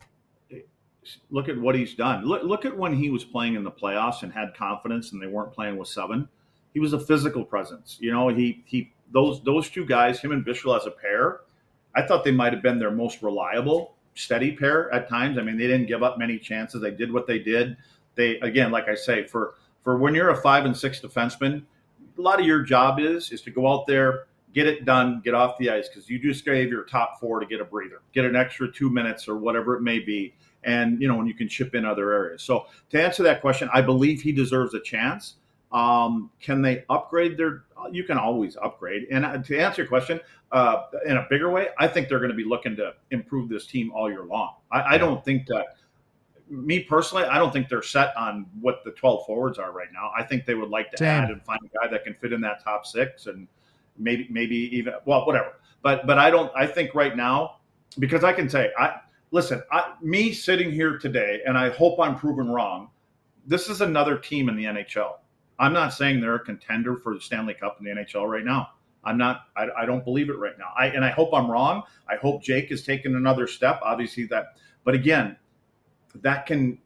look at what he's done. Look, look at when he was playing in the playoffs and had confidence and they weren't playing with seven. He was a physical presence. You know, he he those those two guys, him and Bichsel as a pair, I thought they might have been their most reliable, steady pair at times. I mean, they didn't give up many chances. They did what they did. They, again, like I say, for for when you're a five and six defenseman, a lot of your job is is to go out there, get it done, get off the ice, because you just gave your top four to get a breather, get an extra two minutes or whatever it may be. And, you know, and you can chip in other areas. So to answer that question, I believe he deserves a chance. Um, can they upgrade their – you can always upgrade. And to answer your question, uh, in a bigger way, I think they're going to be looking to improve this team all year long. I, I don't think that – me personally, I don't think they're set on what the twelve forwards are right now. I think they would like to Damn. add and find a guy that can fit in that top six and maybe maybe even – well, whatever. But but I don't – I think right now, because I can say – I. Listen, I, me sitting here today, and I hope I'm proven wrong, this is another team in the N H L. I'm not saying they're a contender for the Stanley Cup in the N H L right now. I'm not. I, I don't believe it right now. I and I hope I'm wrong. I hope Jake has taken another step. Obviously, that. But again, that can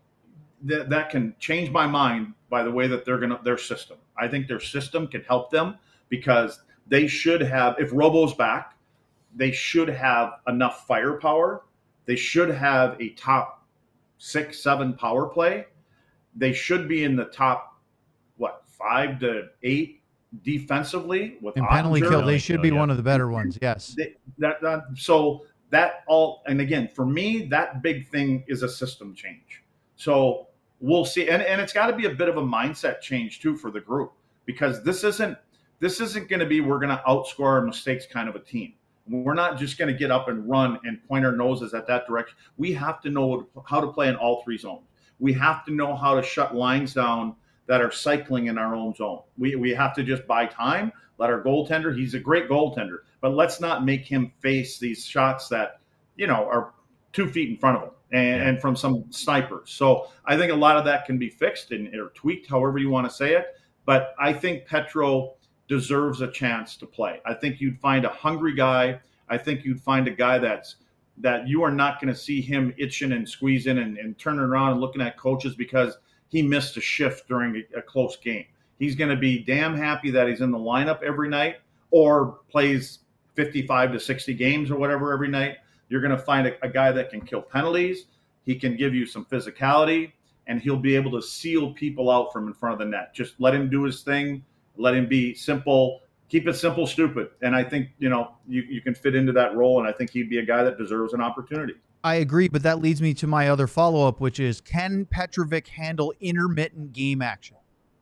that, that can change my mind by the way that they're gonna their system. I think their system can help them because they should have. If Robo's back, they should have enough firepower. They should have a top six, seven power play. They should be in the top, what, five to eight defensively with in penalty Ottinger. kill. They should be yeah. one of the better ones. Yes. They, that, that, so that all, and again, for me, that big thing is a system change. So we'll see, and, and it's got to be a bit of a mindset change too for the group, because this isn't this isn't going to be we're going to outscore our mistakes kind of a team. We're not just going to get up and run and point our noses at that direction. We have to know how to play in all three zones. We have to know how to shut lines down that are cycling in our own zone. We we have to just buy time, let our goaltender, he's a great goaltender, but let's not make him face these shots that, you know, are two feet in front of him and, Yeah. and from some snipers. So I think a lot of that can be fixed and or tweaked, however you want to say it. But I think Petro deserves a chance to play. I think you'd find a hungry guy. I think you'd find a guy that's that you are not going to see him itching and squeezing and, and turning around and looking at coaches because he missed a shift during a, a close game. He's going to be damn happy that he's in the lineup every night or plays fifty-five to sixty games or whatever every night. You're going to find a, a guy that can kill penalties. He can give you some physicality, and he'll be able to seal people out from in front of the net. Just let him do his thing. Let him be simple, keep it simple, stupid. And I think, you know, you, you can fit into that role. And I think he'd be a guy that deserves an opportunity. I agree, but that leads me to my other follow-up, which is, can Petrovic handle intermittent game action?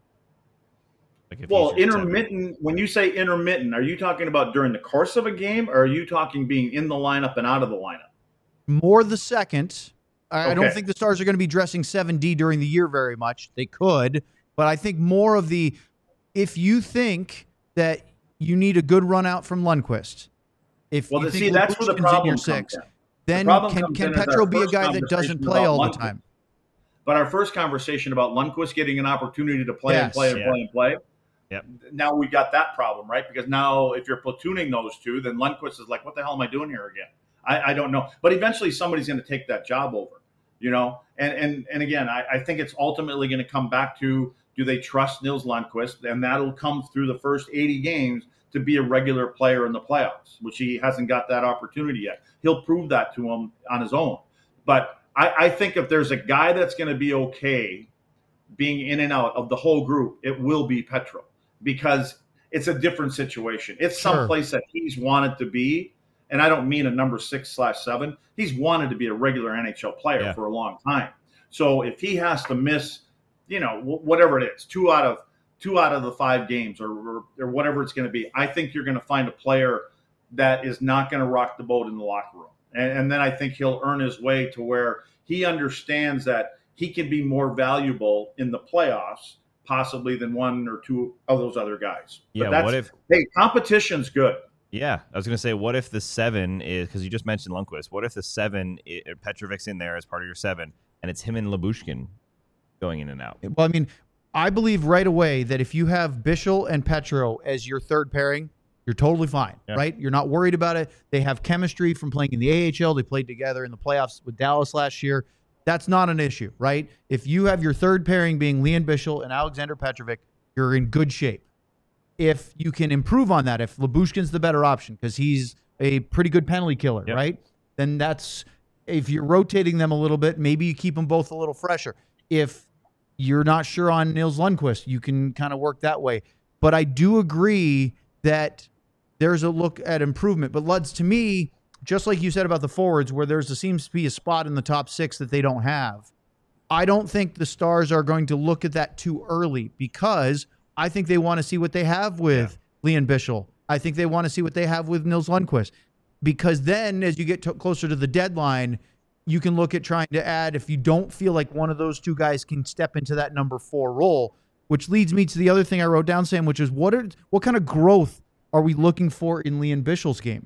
Like if Well, he's just intermittent, when you say intermittent, are you talking about during the course of a game, or are you talking being in the lineup and out of the lineup? More the second. I, I don't Okay. think the Stars are going to be dressing seven D during the year very much. They could, but I think more of the, if you think that you need a good run out from Lundqvist, if Well, you see, think that's where the Lucian's in problem your comes six, in. then problem can, comes can in as our Petro be a first guy that doesn't conversation play about all the Lundqvist. time? But our first conversation about Lundqvist getting an opportunity to play and Yes. play and Yeah. play and play. Yep. Now we got that problem, right? Because now if you're platooning those two, then Lundqvist is like, what the hell am I doing here again? I, I don't know. But eventually somebody's going to take that job over, you know? And and and again, I, I think it's ultimately going to come back to, do they trust Nils Lundqvist? And that'll come through the first eighty games to be a regular player in the playoffs, which he hasn't got that opportunity yet. He'll prove that to him on his own. But I, I think if there's a guy that's going to be okay being in and out of the whole group, it will be Petro, because it's a different situation. It's Sure. someplace that he's wanted to be. And I don't mean a number six slash seven. He's wanted to be a regular N H L player Yeah. for a long time. So if he has to miss, you know, wh- whatever it is, two out of two out of the five games or, or, or whatever it's going to be, I think you're going to find a player that is not going to rock the boat in the locker room. And, and then I think he'll earn his way to where he understands that he can be more valuable in the playoffs possibly than one or two of those other guys. Yeah, But that's, what if hey, competition's good. Yeah, I was going to say, what if the seven is, because you just mentioned Lundqvist, what if the seven, i- Petrovic's in there as part of your seven, and it's him and Lyubushkin going in and out? Well, I mean, I believe right away that if you have Bichel and Petro as your third pairing, you're totally fine, Yeah. right? You're not worried about it. They have chemistry from playing in the A H L. They played together in the playoffs with Dallas last year. That's not an issue, right? If you have your third pairing being Leon Bichel and Alexander Petrovic, you're in good shape. If you can improve on that, if Lyubushkin's the better option because he's a pretty good penalty killer, Yep. right? Then that's, if you're rotating them a little bit, maybe you keep them both a little fresher. If you're not sure on Nils Lundqvist, you can kind of work that way. But I do agree that there's a look at improvement. But Luds, to me, just like you said about the forwards, where there's a, seems to be a spot in the top six that they don't have, I don't think the Stars are going to look at that too early because I think they want to see what they have with yeah. Leon Bichel. I think they want to see what they have with Nils Lundqvist. Because then as you get to, closer to the deadline, you can look at trying to add, if you don't feel like one of those two guys can step into that number four role, which leads me to the other thing I wrote down, Sam, which is what are what kind of growth are we looking for in Leon Bichel's game?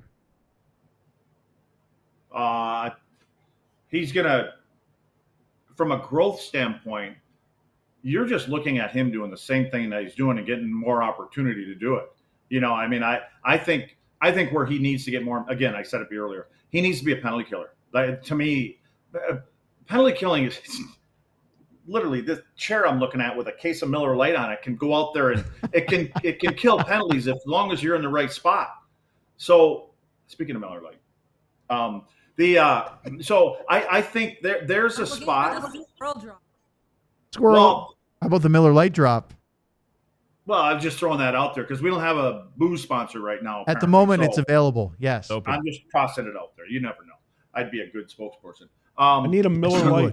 Uh, he's going to, from a growth standpoint, you're just looking at him doing the same thing that he's doing and getting more opportunity to do it. You know, I mean, I, I think I think where he needs to get more, again, I said it earlier, he needs to be a penalty killer. Like, to me, uh, penalty killing is literally this chair I'm looking at with a case of Miller Lite on it can go out there and it can it can kill penalties as long as you're in the right spot. So speaking of Miller Lite, um, the uh, so I, I think there there's a spot. Squirrel. Well, how about the Miller Lite drop? Well, I'm just throwing that out there because we don't have a booze sponsor right now. At the moment, so it's available. Yes, open. I'm just tossing it out there. You never know. I'd be a good spokesperson. Um, I need a Miller Lite.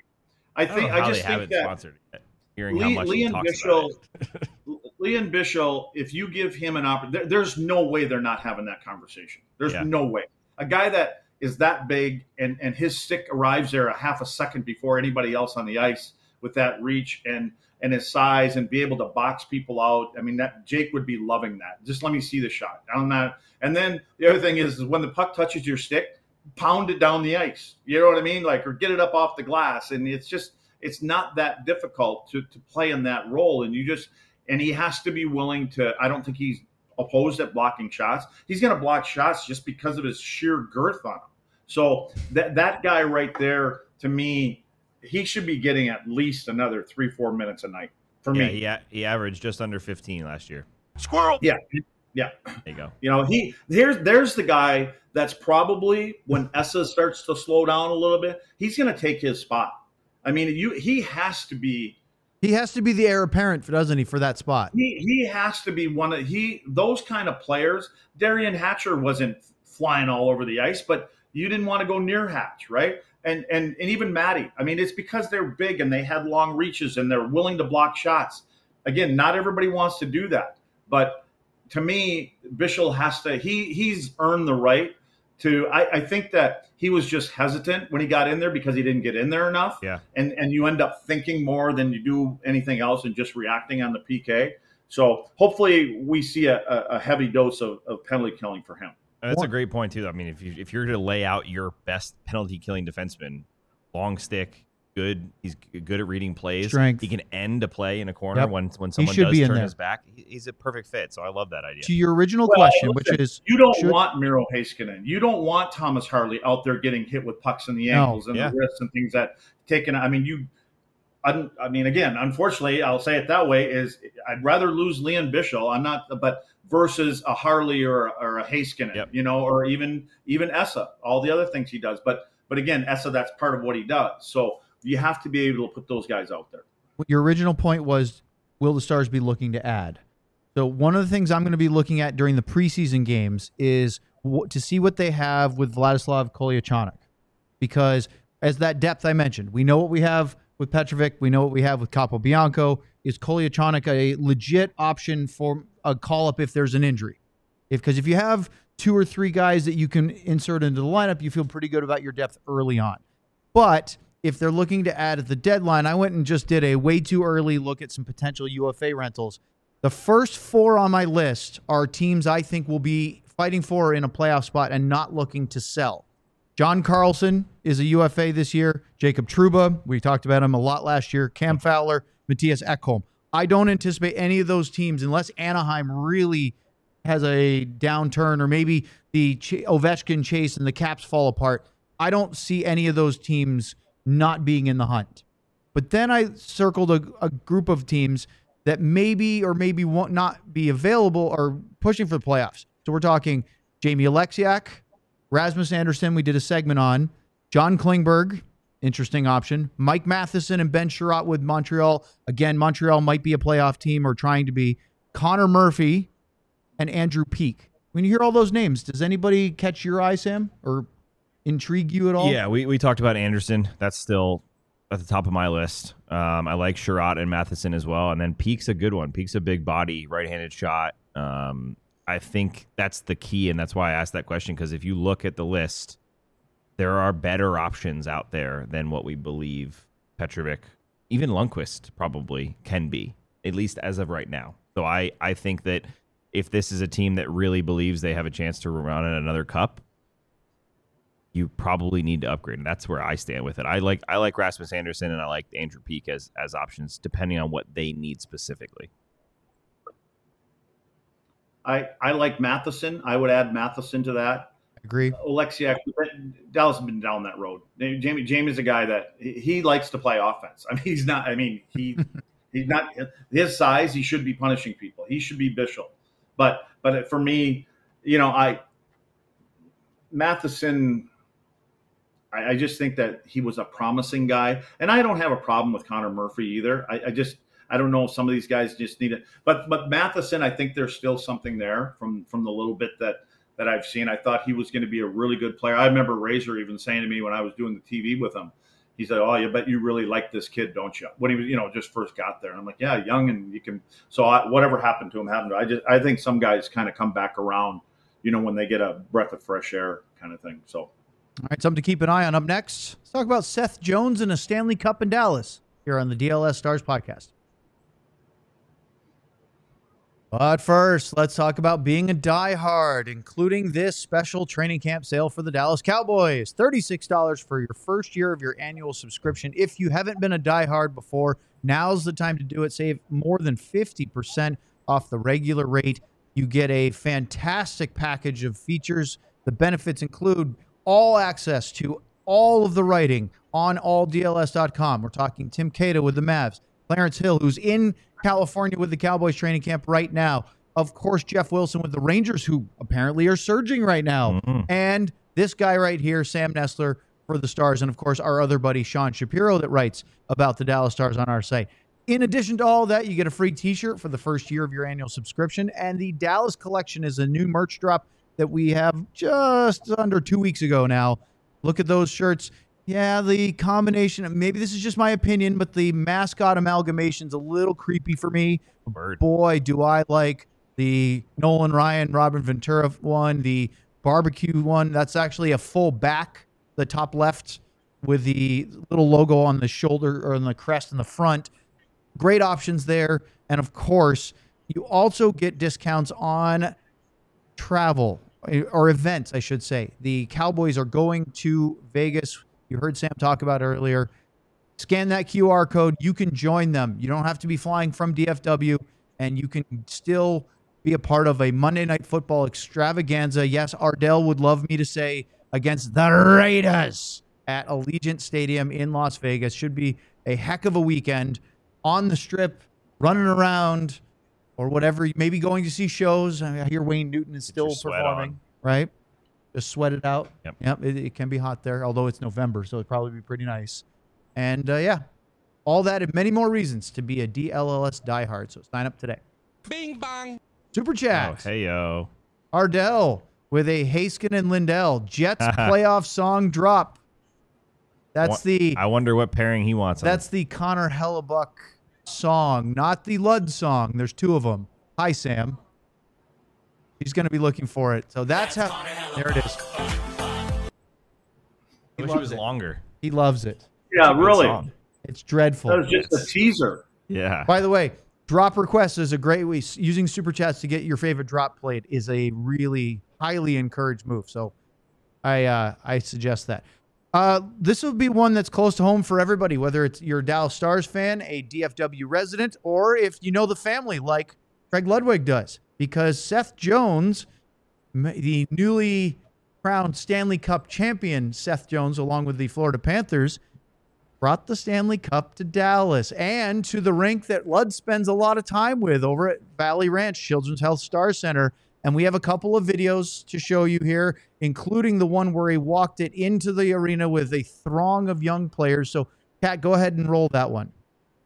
I, I, I think I, I just think that sponsored yet, hearing Le- how much Leon he talks Bichel, about it. Leon Bichel, if you give him an opportunity, there, there's no way they're not having that conversation. There's Yeah. no way. A guy that is that big and and his stick arrives there a half a second before anybody else on the ice with that reach and and his size and be able to box people out. I mean, that Jake would be loving that. Just let me see the shot. I'm not. And then the other thing is, is when the puck touches your stick, pound it down the ice. You know what I mean? Like, or get it up off the glass. And it's just, it's not that difficult to, to play in that role. And you just, and he has to be willing to, I don't think he's opposed at blocking shots. He's going to block shots just because of his sheer girth on him. So that, that guy right there, to me, he should be getting at least another three, four minutes a night for Yeah, me. he, a- he averaged just under fifteen last year. Squirrel. Yeah. Yeah. There you go. You know, he there's there's the guy that's probably, when Essa starts to slow down a little bit, he's going to take his spot. I mean, you he has to be. He has to be the heir apparent, doesn't he, for that spot? He he has to be one of he those kind of players. Darian Hatcher wasn't flying all over the ice, but you didn't want to go near Hatch, right? And and and even Matty. I mean, it's because they're big and they had long reaches and they're willing to block shots. Again, not everybody wants to do that, but to me, Bichel has to. He he's earned the right to. I, I think that he was just hesitant when he got in there because he didn't get in there enough. Yeah. And and you end up thinking more than you do anything else and just reacting on the P K. So hopefully we see a, a heavy dose of, of penalty killing for him. That's a great point too. I mean, if you if you're to lay out your best penalty killing defenseman, long stick, good. He's good at reading plays. Strength. He can end a play in a corner Yep. when when someone should does be in turn there. his back. He- He's a perfect fit. So I love that idea. To your original Well, question, listen, which is you don't should- want Miro Heiskanen. You don't want Thomas Harley out there getting hit with pucks in the No. ankles and Yeah. the wrists and things that taken. I mean, you. I, I mean, again, unfortunately, I'll say it that way: is I'd rather lose Leon Bichel. I'm not, but versus a Harley or or a Heiskanen, Yep. you know, or even even Essa. All the other things he does, but but again, Essa, that's part of what he does. So you have to be able to put those guys out there. your original point was, will the Stars be looking to add? So one of the things I'm going to be looking at during the preseason games is w- to see what they have with Vladislav Kolyachonok. Because as that depth I mentioned, we know what we have with Petrovic. We know what we have with Capobianco. Is Kolyachonok a legit option for a call-up if there's an injury? If Because if you have two or three guys that you can insert into the lineup, you feel pretty good about your depth early on. But if they're looking to add at the deadline, I went and just did a way too early look at some potential U F A rentals. The first four on my list are teams I think will be fighting for in a playoff spot and not looking to sell. John Carlson is a U F A this year. Jacob Trouba, we talked about him a lot last year. Cam Fowler, Matthias Ekholm. I don't anticipate any of those teams, unless Anaheim really has a downturn or maybe the Ch- Ovechkin chase and the Caps fall apart. I don't see any of those teams not being in the hunt. But then I circled a, a group of teams that maybe or maybe won't not be available or pushing for the playoffs. So we're talking Jamie Alexiak, Rasmus Anderson, we did a segment on. John Klingberg, interesting option. Mike Matheson and Ben Sherratt with Montreal. Again, Montreal might be a playoff team or trying to be. Connor Murphy and Andrew Peeke. When you hear all those names, does anybody catch your eye, Sam, or intrigue you at all? Yeah, we, we talked about Anderson. That's still at the top of my list. Um, I like Sherratt and Matheson as well. And then Peake's a good one. Peake's a big body, right-handed shot. Um, I think that's the key, and that's why I asked that question, because if you look at the list, there are better options out there than what we believe Petrovic, even Lundqvist probably can be, at least as of right now. So I, I think that if this is a team that really believes they have a chance to run in another cup, you probably need to upgrade. And that's where I stand with it. I like I like Rasmus Anderson and I like Andrew Peeke as, as options, depending on what they need specifically. I, I like Matheson. I would add Matheson to that. Agree. Oleksiak, Dallas has been down that road. Jamie Jamie's a guy that he likes to play offense. I mean, he's not. I mean, he he's not his size. He should be punishing people. He should be Bishop. But but for me, you know, I Matheson. I, I just think that he was a promising guy, and I don't have a problem with Connor Murphy either. I, I just. I don't know if some of these guys just need it. But but Matheson, I think there's still something there from, from the little bit that, that I've seen. I thought he was going to be a really good player. I remember Razor even saying to me when I was doing the T V with him, he said, "Oh, you bet you really like this kid, don't you?" When he was, you know, just first got there. And I'm like, yeah, young and you can. So I, whatever happened to him happened to him. I just I think some guys kind of come back around, you know, when they get a breath of fresh air kind of thing. So. All right, something to keep an eye on. Up next, let's talk about Seth Jones and a Stanley Cup in Dallas here on the D L S Stars podcast. But first, let's talk about being a diehard, including this special training camp sale for the Dallas Cowboys. thirty-six dollars for your first year of your annual subscription. If you haven't been a diehard before, now's the time to do it. Save more than fifty percent off the regular rate. You get a fantastic package of features. The benefits include all access to all of the writing on all D L S dot com. We're talking Tim Cato with the Mavs, Clarence Hill, who's in California with the Cowboys training camp right now. Of course, Jeff Wilson with the Rangers, who apparently are surging right now. Mm-hmm. And this guy right here, Sam Nestler for the Stars. And of course, our other buddy, Sean Shapiro, that writes about the Dallas Stars on our site. In addition to all that, you get a free t-shirt for the first year of your annual subscription. And the Dallas Collection is a new merch drop that we have just under two weeks ago now. Look at those shirts. Yeah, the combination, maybe this is just my opinion, but the mascot amalgamation's a little creepy for me. Bird. Boy, do I like the Nolan Ryan, Robin Ventura one, the barbecue one. That's actually a full back, the top left, with the little logo on the shoulder or on the crest in the front. Great options there. And of course, you also get discounts on travel or events, I should say. The Cowboys are going to Vegas. You heard Sam talk about earlier. Scan that Q R code. You can join them. You don't have to be flying from D F W, and you can still be a part of a Monday Night Football extravaganza. Yes, Ardell would love me to say against the Raiders at Allegiant Stadium in Las Vegas. Should be a heck of a weekend on the Strip, running around, or whatever. Maybe going to see shows. I hear Wayne Newton is still performing, right? Just sweat it out. Yep. Yep. It, it can be hot there, although it's November, so it'd probably be pretty nice. And uh, yeah, all that and many more reasons to be a D L L S diehard. So sign up today. Bing bong. Super chat. Oh, hey yo. Ardell with a Haskin and Lindell Jets playoff song drop. That's the. I wonder what pairing he wants. That's the Connor Hellebuck song, not the Lud song. There's two of them. Hi, Sam. He's going to be looking for it. So that's, that's how. There it is. I wish it was it. longer. He loves it. Yeah, really. Song. It's dreadful. That was just it's, a teaser. Yeah. By the way, drop requests is a great way. Using Super Chats to get your favorite drop played is a really highly encouraged move. So I uh, I suggest that. Uh, this will be one that's close to home for everybody, whether it's you're a Dallas Stars fan, a D F W resident, or if you know the family like Craig Ludwig does, because Seth Jones, the newly crowned Stanley Cup champion, Seth Jones, along with the Florida Panthers, brought the Stanley Cup to Dallas and to the rink that Lud spends a lot of time with over at Valley Ranch Children's Health Star Center. And we have a couple of videos to show you here, including the one where he walked it into the arena with a throng of young players. So, Kat, go ahead and roll that one.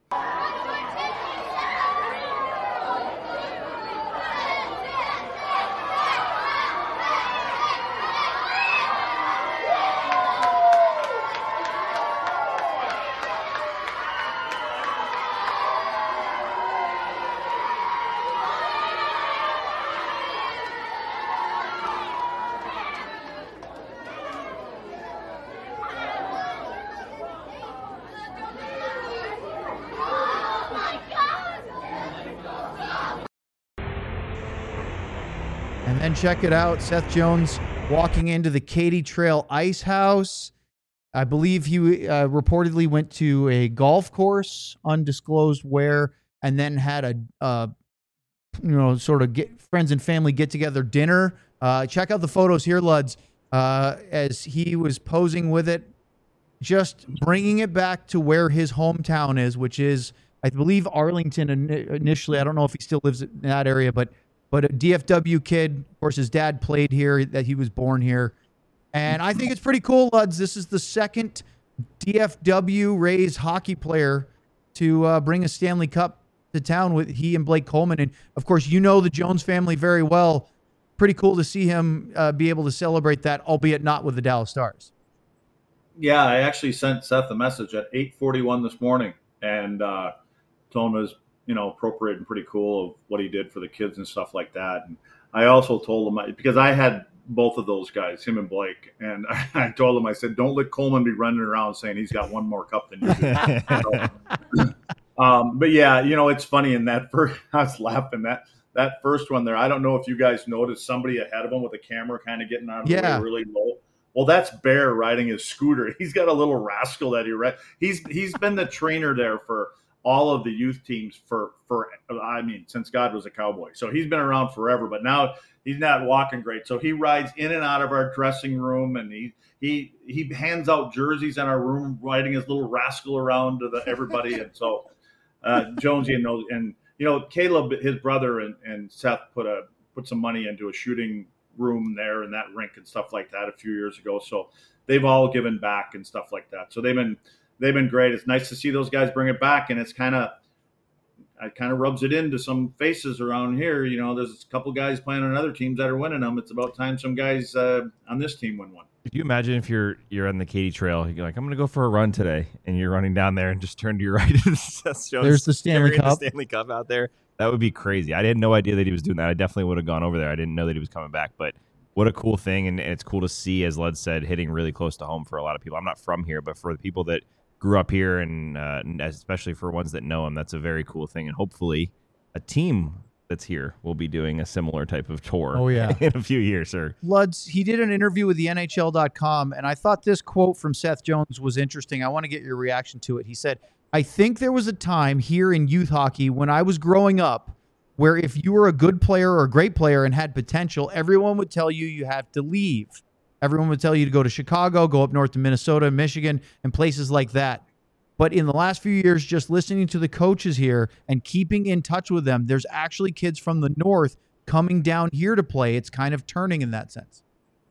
And then check it out, Seth Jones walking into the Katy Trail Ice House. I believe he uh, reportedly went to a golf course, undisclosed where, and then had a, uh, you know, sort of get friends and family get together dinner. Uh, check out the photos here, Luds, uh, as he was posing with it, just bringing it back to where his hometown is, which is, I believe, Arlington initially. I don't know if he still lives in that area, but But a D F W kid, of course, his dad played here, that he was born here. And I think it's pretty cool, Luds. This is the second D F W Rays hockey player to uh, bring a Stanley Cup to town with he and Blake Coleman. And, of course, you know the Jones family very well. Pretty cool to see him uh, be able to celebrate that, albeit not with the Dallas Stars. Yeah, I actually sent Seth a message at eight forty-one this morning and uh, told him it was, you know, appropriate and pretty cool of what he did for the kids and stuff like that. And I also told him, because I had both of those guys, him and Blake, and I, I told him, I said, don't let Coleman be running around saying he's got one more cup than you do. so, um, but yeah, you know, it's funny in that first, I was laughing that, that first one there. I don't know if you guys noticed somebody ahead of him with a camera kind of getting out of the yeah. way really low. Well, that's Bear riding his scooter. He's got a little rascal that he read. He's, he's been the trainer there for all of the youth teams for, for, I mean, since God was a cowboy. So he's been around forever, but now he's not walking great. So he rides in and out of our dressing room, and he, he, he hands out jerseys in our room, riding his little rascal around to the, everybody. And so uh, Jonesy and those, and, you know, Caleb, his brother, and, and Seth put a, put some money into a shooting room there in that rink and stuff like that a few years ago. So they've all given back and stuff like that. So they've been, They've been great. It's nice to see those guys bring it back, and it's kind of, it kind of rubs it into some faces around here. You know, there's a couple guys playing on other teams that are winning them. It's about time some guys uh, on this team win one. Could you imagine if you're you're on the Katy Trail, you're like, I'm going to go for a run today, and you're running down there and just turn to your right, and Seth Jones there's the Stanley Cup. The Stanley Cup out there. That would be crazy. I had no idea that he was doing that. I definitely would have gone over there. I didn't know that he was coming back, but what a cool thing, and, and it's cool to see, as Lud said, hitting really close to home for a lot of people. I'm not from here, but for the people that grew up here, and uh, especially for ones that know him, that's a very cool thing. And hopefully a team that's here will be doing a similar type of tour oh, yeah. in a few years, sir. Luds, he did an interview with the N H L dot com, and I thought this quote from Seth Jones was interesting. I want to get your reaction to it. He said, I think there was a time here in youth hockey when I was growing up where if you were a good player or a great player and had potential, everyone would tell you you have to leave. Everyone would tell you to go to Chicago, go up north to Minnesota, Michigan, and places like that. But in the last few years, just listening to the coaches here and keeping in touch with them, there's actually kids from the north coming down here to play. It's kind of turning in that sense.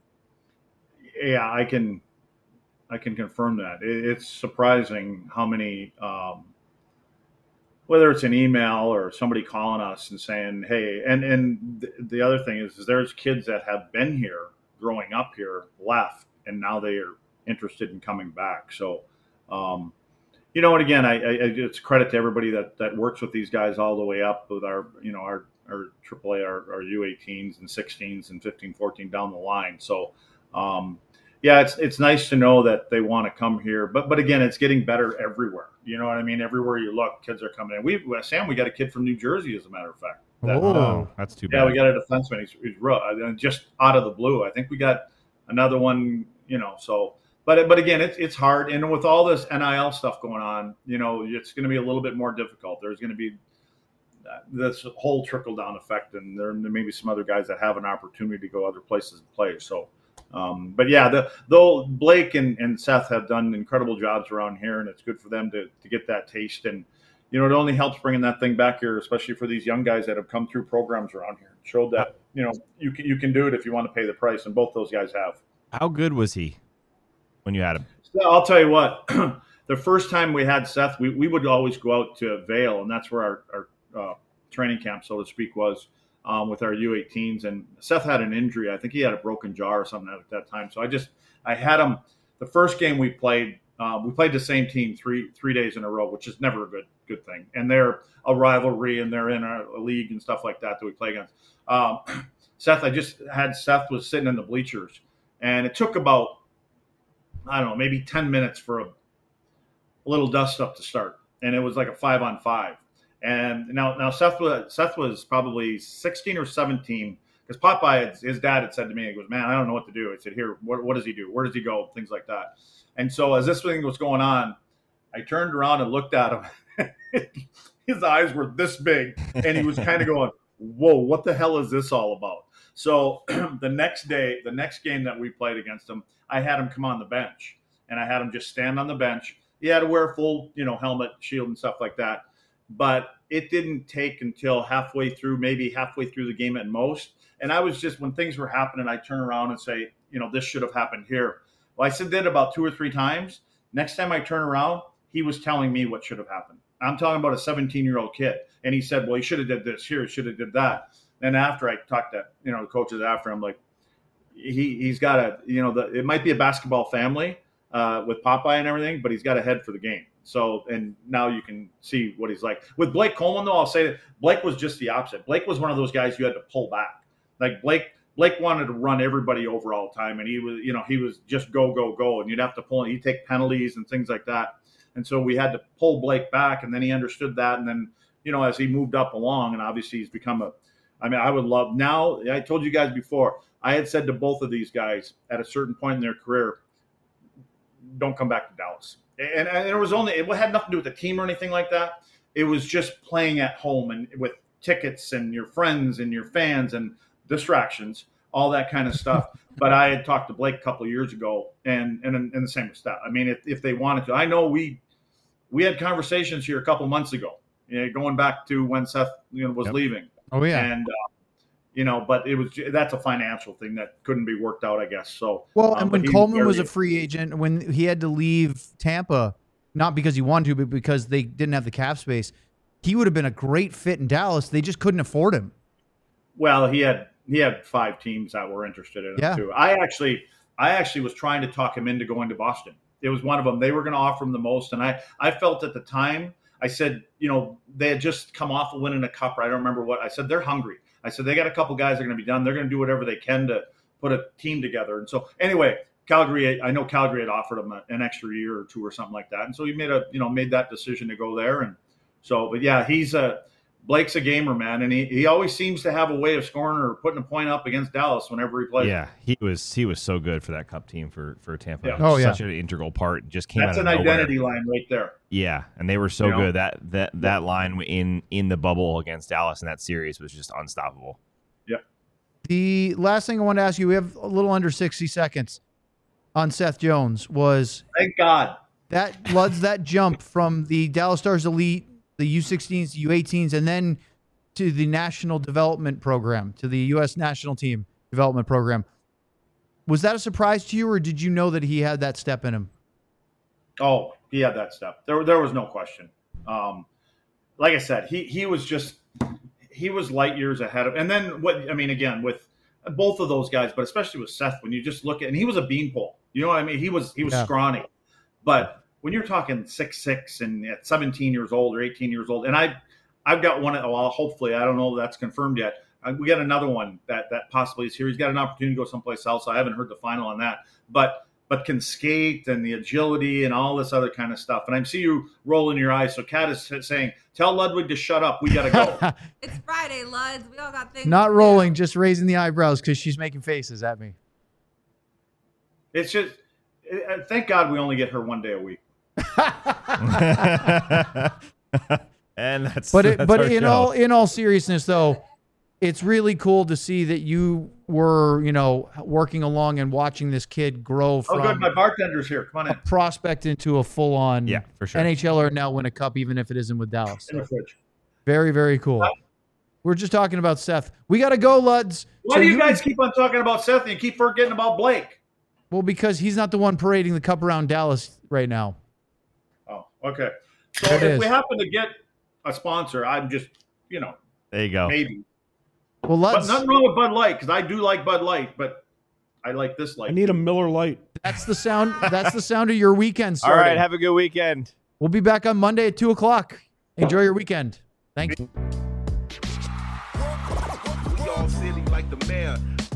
Yeah, I can I can confirm that. It's surprising how many, um, whether it's an email or somebody calling us and saying, hey, and, and the other thing is, is there's kids that have been here growing up here, left, and now they are interested in coming back. So, um, you know, and again, I, I it's credit to everybody that, that works with these guys all the way up with our, you know, our, our triple A, our, our U eighteens and sixteens and fifteen, fourteen down the line. So, um, yeah, it's it's nice to know that they want to come here. But but again, it's getting better everywhere. You know what I mean? Everywhere you look, kids are coming in. We Sam, we got a kid from New Jersey, as a matter of fact. That, Oh. Oh, that's too bad. yeah, we got a defenseman. He's, he's real, uh, just out of the blue. I think we got another one, you know. So, but but again, it's it's hard, and with all this N I L stuff going on, you know, it's going to be a little bit more difficult. There's going to be uh, this whole trickle down effect, and there, there may be some other guys that have an opportunity to go other places and play. So, um, but yeah, the, though Blake and, and Seth have done incredible jobs around here, and it's good for them to to get that taste. And you know, it only helps bringing that thing back here, especially for these young guys that have come through programs around here. It showed that, you know, you can, you can do it if you want to pay the price, and both those guys have. How good was he when you had him? So I'll tell you what, the first time we had Seth, we, we would always go out to Vail, and that's where our, our uh, training camp, so to speak, was um, with our U eighteens. And Seth had an injury. I think he had a broken jaw or something at that time. So I just, I had him the first game we played. Uh, we played the same team three three days in a row, which is never a good good thing. And they're a rivalry, and they're in a, a league and stuff like that that we play against. Um, Seth, I just had Seth was sitting in the bleachers, and it took about, I don't know, maybe ten minutes for a, a little dust up to start, and it was like a five on five. And now now Seth was Seth was probably sixteen or seventeen, because Popeye, had, his dad had said to me, he goes, "Man, I don't know what to do." I said, "Here, what what does he do? Where does he go?" Things like that. And so as this thing was going on, I turned around and looked at him. His eyes were this big, and he was kind of going, "Whoa, what the hell is this all about?" So the next day, the next game that we played against him, I had him come on the bench, and I had him just stand on the bench. He had to wear a full, you know, helmet, shield, and stuff like that. But it didn't take until halfway through, maybe halfway through the game at most. And I was just, when things were happening, I'd turn around and say, you know, this should have happened here. Well, I said that about two or three times. Next time I turn around, he was telling me what should have happened. I'm talking about a seventeen-year-old kid. And he said, well, he should have did this here. He should have did that. And after I talked to, you know, the coaches after, I'm like, he, he's got a, you know, the, it might be a basketball family uh, with Popeye and everything, but he's got a head for the game. So, and now you can see what he's like. With Blake Coleman, though, I'll say that Blake was just the opposite. Blake was one of those guys you had to pull back. Like Blake, Blake wanted to run everybody over all the time, and he was, you know, he was just go, go, go, and you'd have to pull. He'd take penalties and things like that, and so we had to pull Blake back, and then he understood that, and then, you know, as he moved up along, and obviously he's become a. I mean, I would love now. I told you guys before. I had said to both of these guys at a certain point in their career, don't come back to Dallas. And, and it was only, it had nothing to do with the team or anything like that. It was just playing at home and with tickets and your friends and your fans and distractions, all that kind of stuff. But I had talked to Blake a couple of years ago, and and, and the same with Steph. I mean, if, if they wanted to, I know we we had conversations here a couple of months ago, you know, going back to when Seth, you know, was Yep. leaving. Oh yeah. And, uh, you know, but it was, that's a financial thing that couldn't be worked out, I guess. So, Well, um, and but when he Coleman was a very- free agent, when he had to leave Tampa, not because he wanted to, but because they didn't have the cap space, he would have been a great fit in Dallas. They just couldn't afford him. Well, he had he had five teams that were interested in him Yeah. too. I actually I actually was trying to talk him into going to Boston. It was one of them. They were going to offer him the most, and I I felt at the time, I said, you know, they had just come off of winning a cup. I don't remember what I said. They're hungry. I said they got a couple guys that are going to be done. They're going to do whatever they can to put a team together. And so anyway, Calgary, I know Calgary had offered him a, an extra year or two or something like that, and so he made a you know made that decision to go there. And so, but yeah, he's a Blake's a gamer, man, and he, he always seems to have a way of scoring or putting a point up against Dallas whenever he plays. Yeah, he was he was so good for that Cup team for for Tampa. Yeah. Oh, yeah. Such an integral part. Just came That's out an of nowhere. identity line right there. Yeah, and they were so You know? good. That that that line in in the bubble against Dallas in that series was just unstoppable. The last thing I want to ask you, we have a little under sixty seconds on Seth Jones, was Thank God. that Luds, that jump from the Dallas Stars Elite, the U sixteens, U eighteens, and then to the National Development Program, to the U S National Team Development Program. Was that a surprise to you, or did you know that he had that step in him? Oh, he had that step. There, there was no question. Um, like I said, he he was just he was light years ahead of. And then what? I mean, again, with both of those guys, but especially with Seth, when you just look at, and he was a beanpole. You know what I mean? He was he was Yeah. scrawny, but when you're talking six six and at seventeen years old or eighteen years old, and I I've got one. Well, hopefully, I don't know if that's confirmed yet. Uh, We got another one that that possibly is here. He's got an opportunity to go someplace else. I haven't heard the final on that, but but can skate and the agility and all this other kind of stuff. And I see you rolling your eyes. So Kat is saying, tell Ludwig to shut up. We got to go. It's Friday, Luds. We all got things. Not to rolling, do. just raising the eyebrows because she's making faces at me. It's just, uh, thank God we only get her one day a week. And that's But it, that's but our in show. all in all seriousness, though, it's really cool to see that you were, you know, working along and watching this kid grow Oh, from good. My bartender's here. Come on a in. prospect into a full-on Yeah, for sure. NHLer, now win a cup, even if it isn't with Dallas. In the fridge. Very, very cool. We're just talking about Seth. We got to go, Luds. Why So do you guys keep on talking about Seth and you keep forgetting about Blake? Well, because he's not the one parading the cup around Dallas right now. Oh, okay. So There it if is. we happen to get a sponsor, I'm just, you know, There you go. maybe. Well, But Luds, nothing wrong with Bud Light because I do like Bud Light, but I like this I light. need a Miller Lite. that's the sound. That's the sound of your weekend All starting. right. Have a good weekend. We'll be back on Monday at two o'clock. Enjoy your weekend. Thanks. We all silly like the mayor.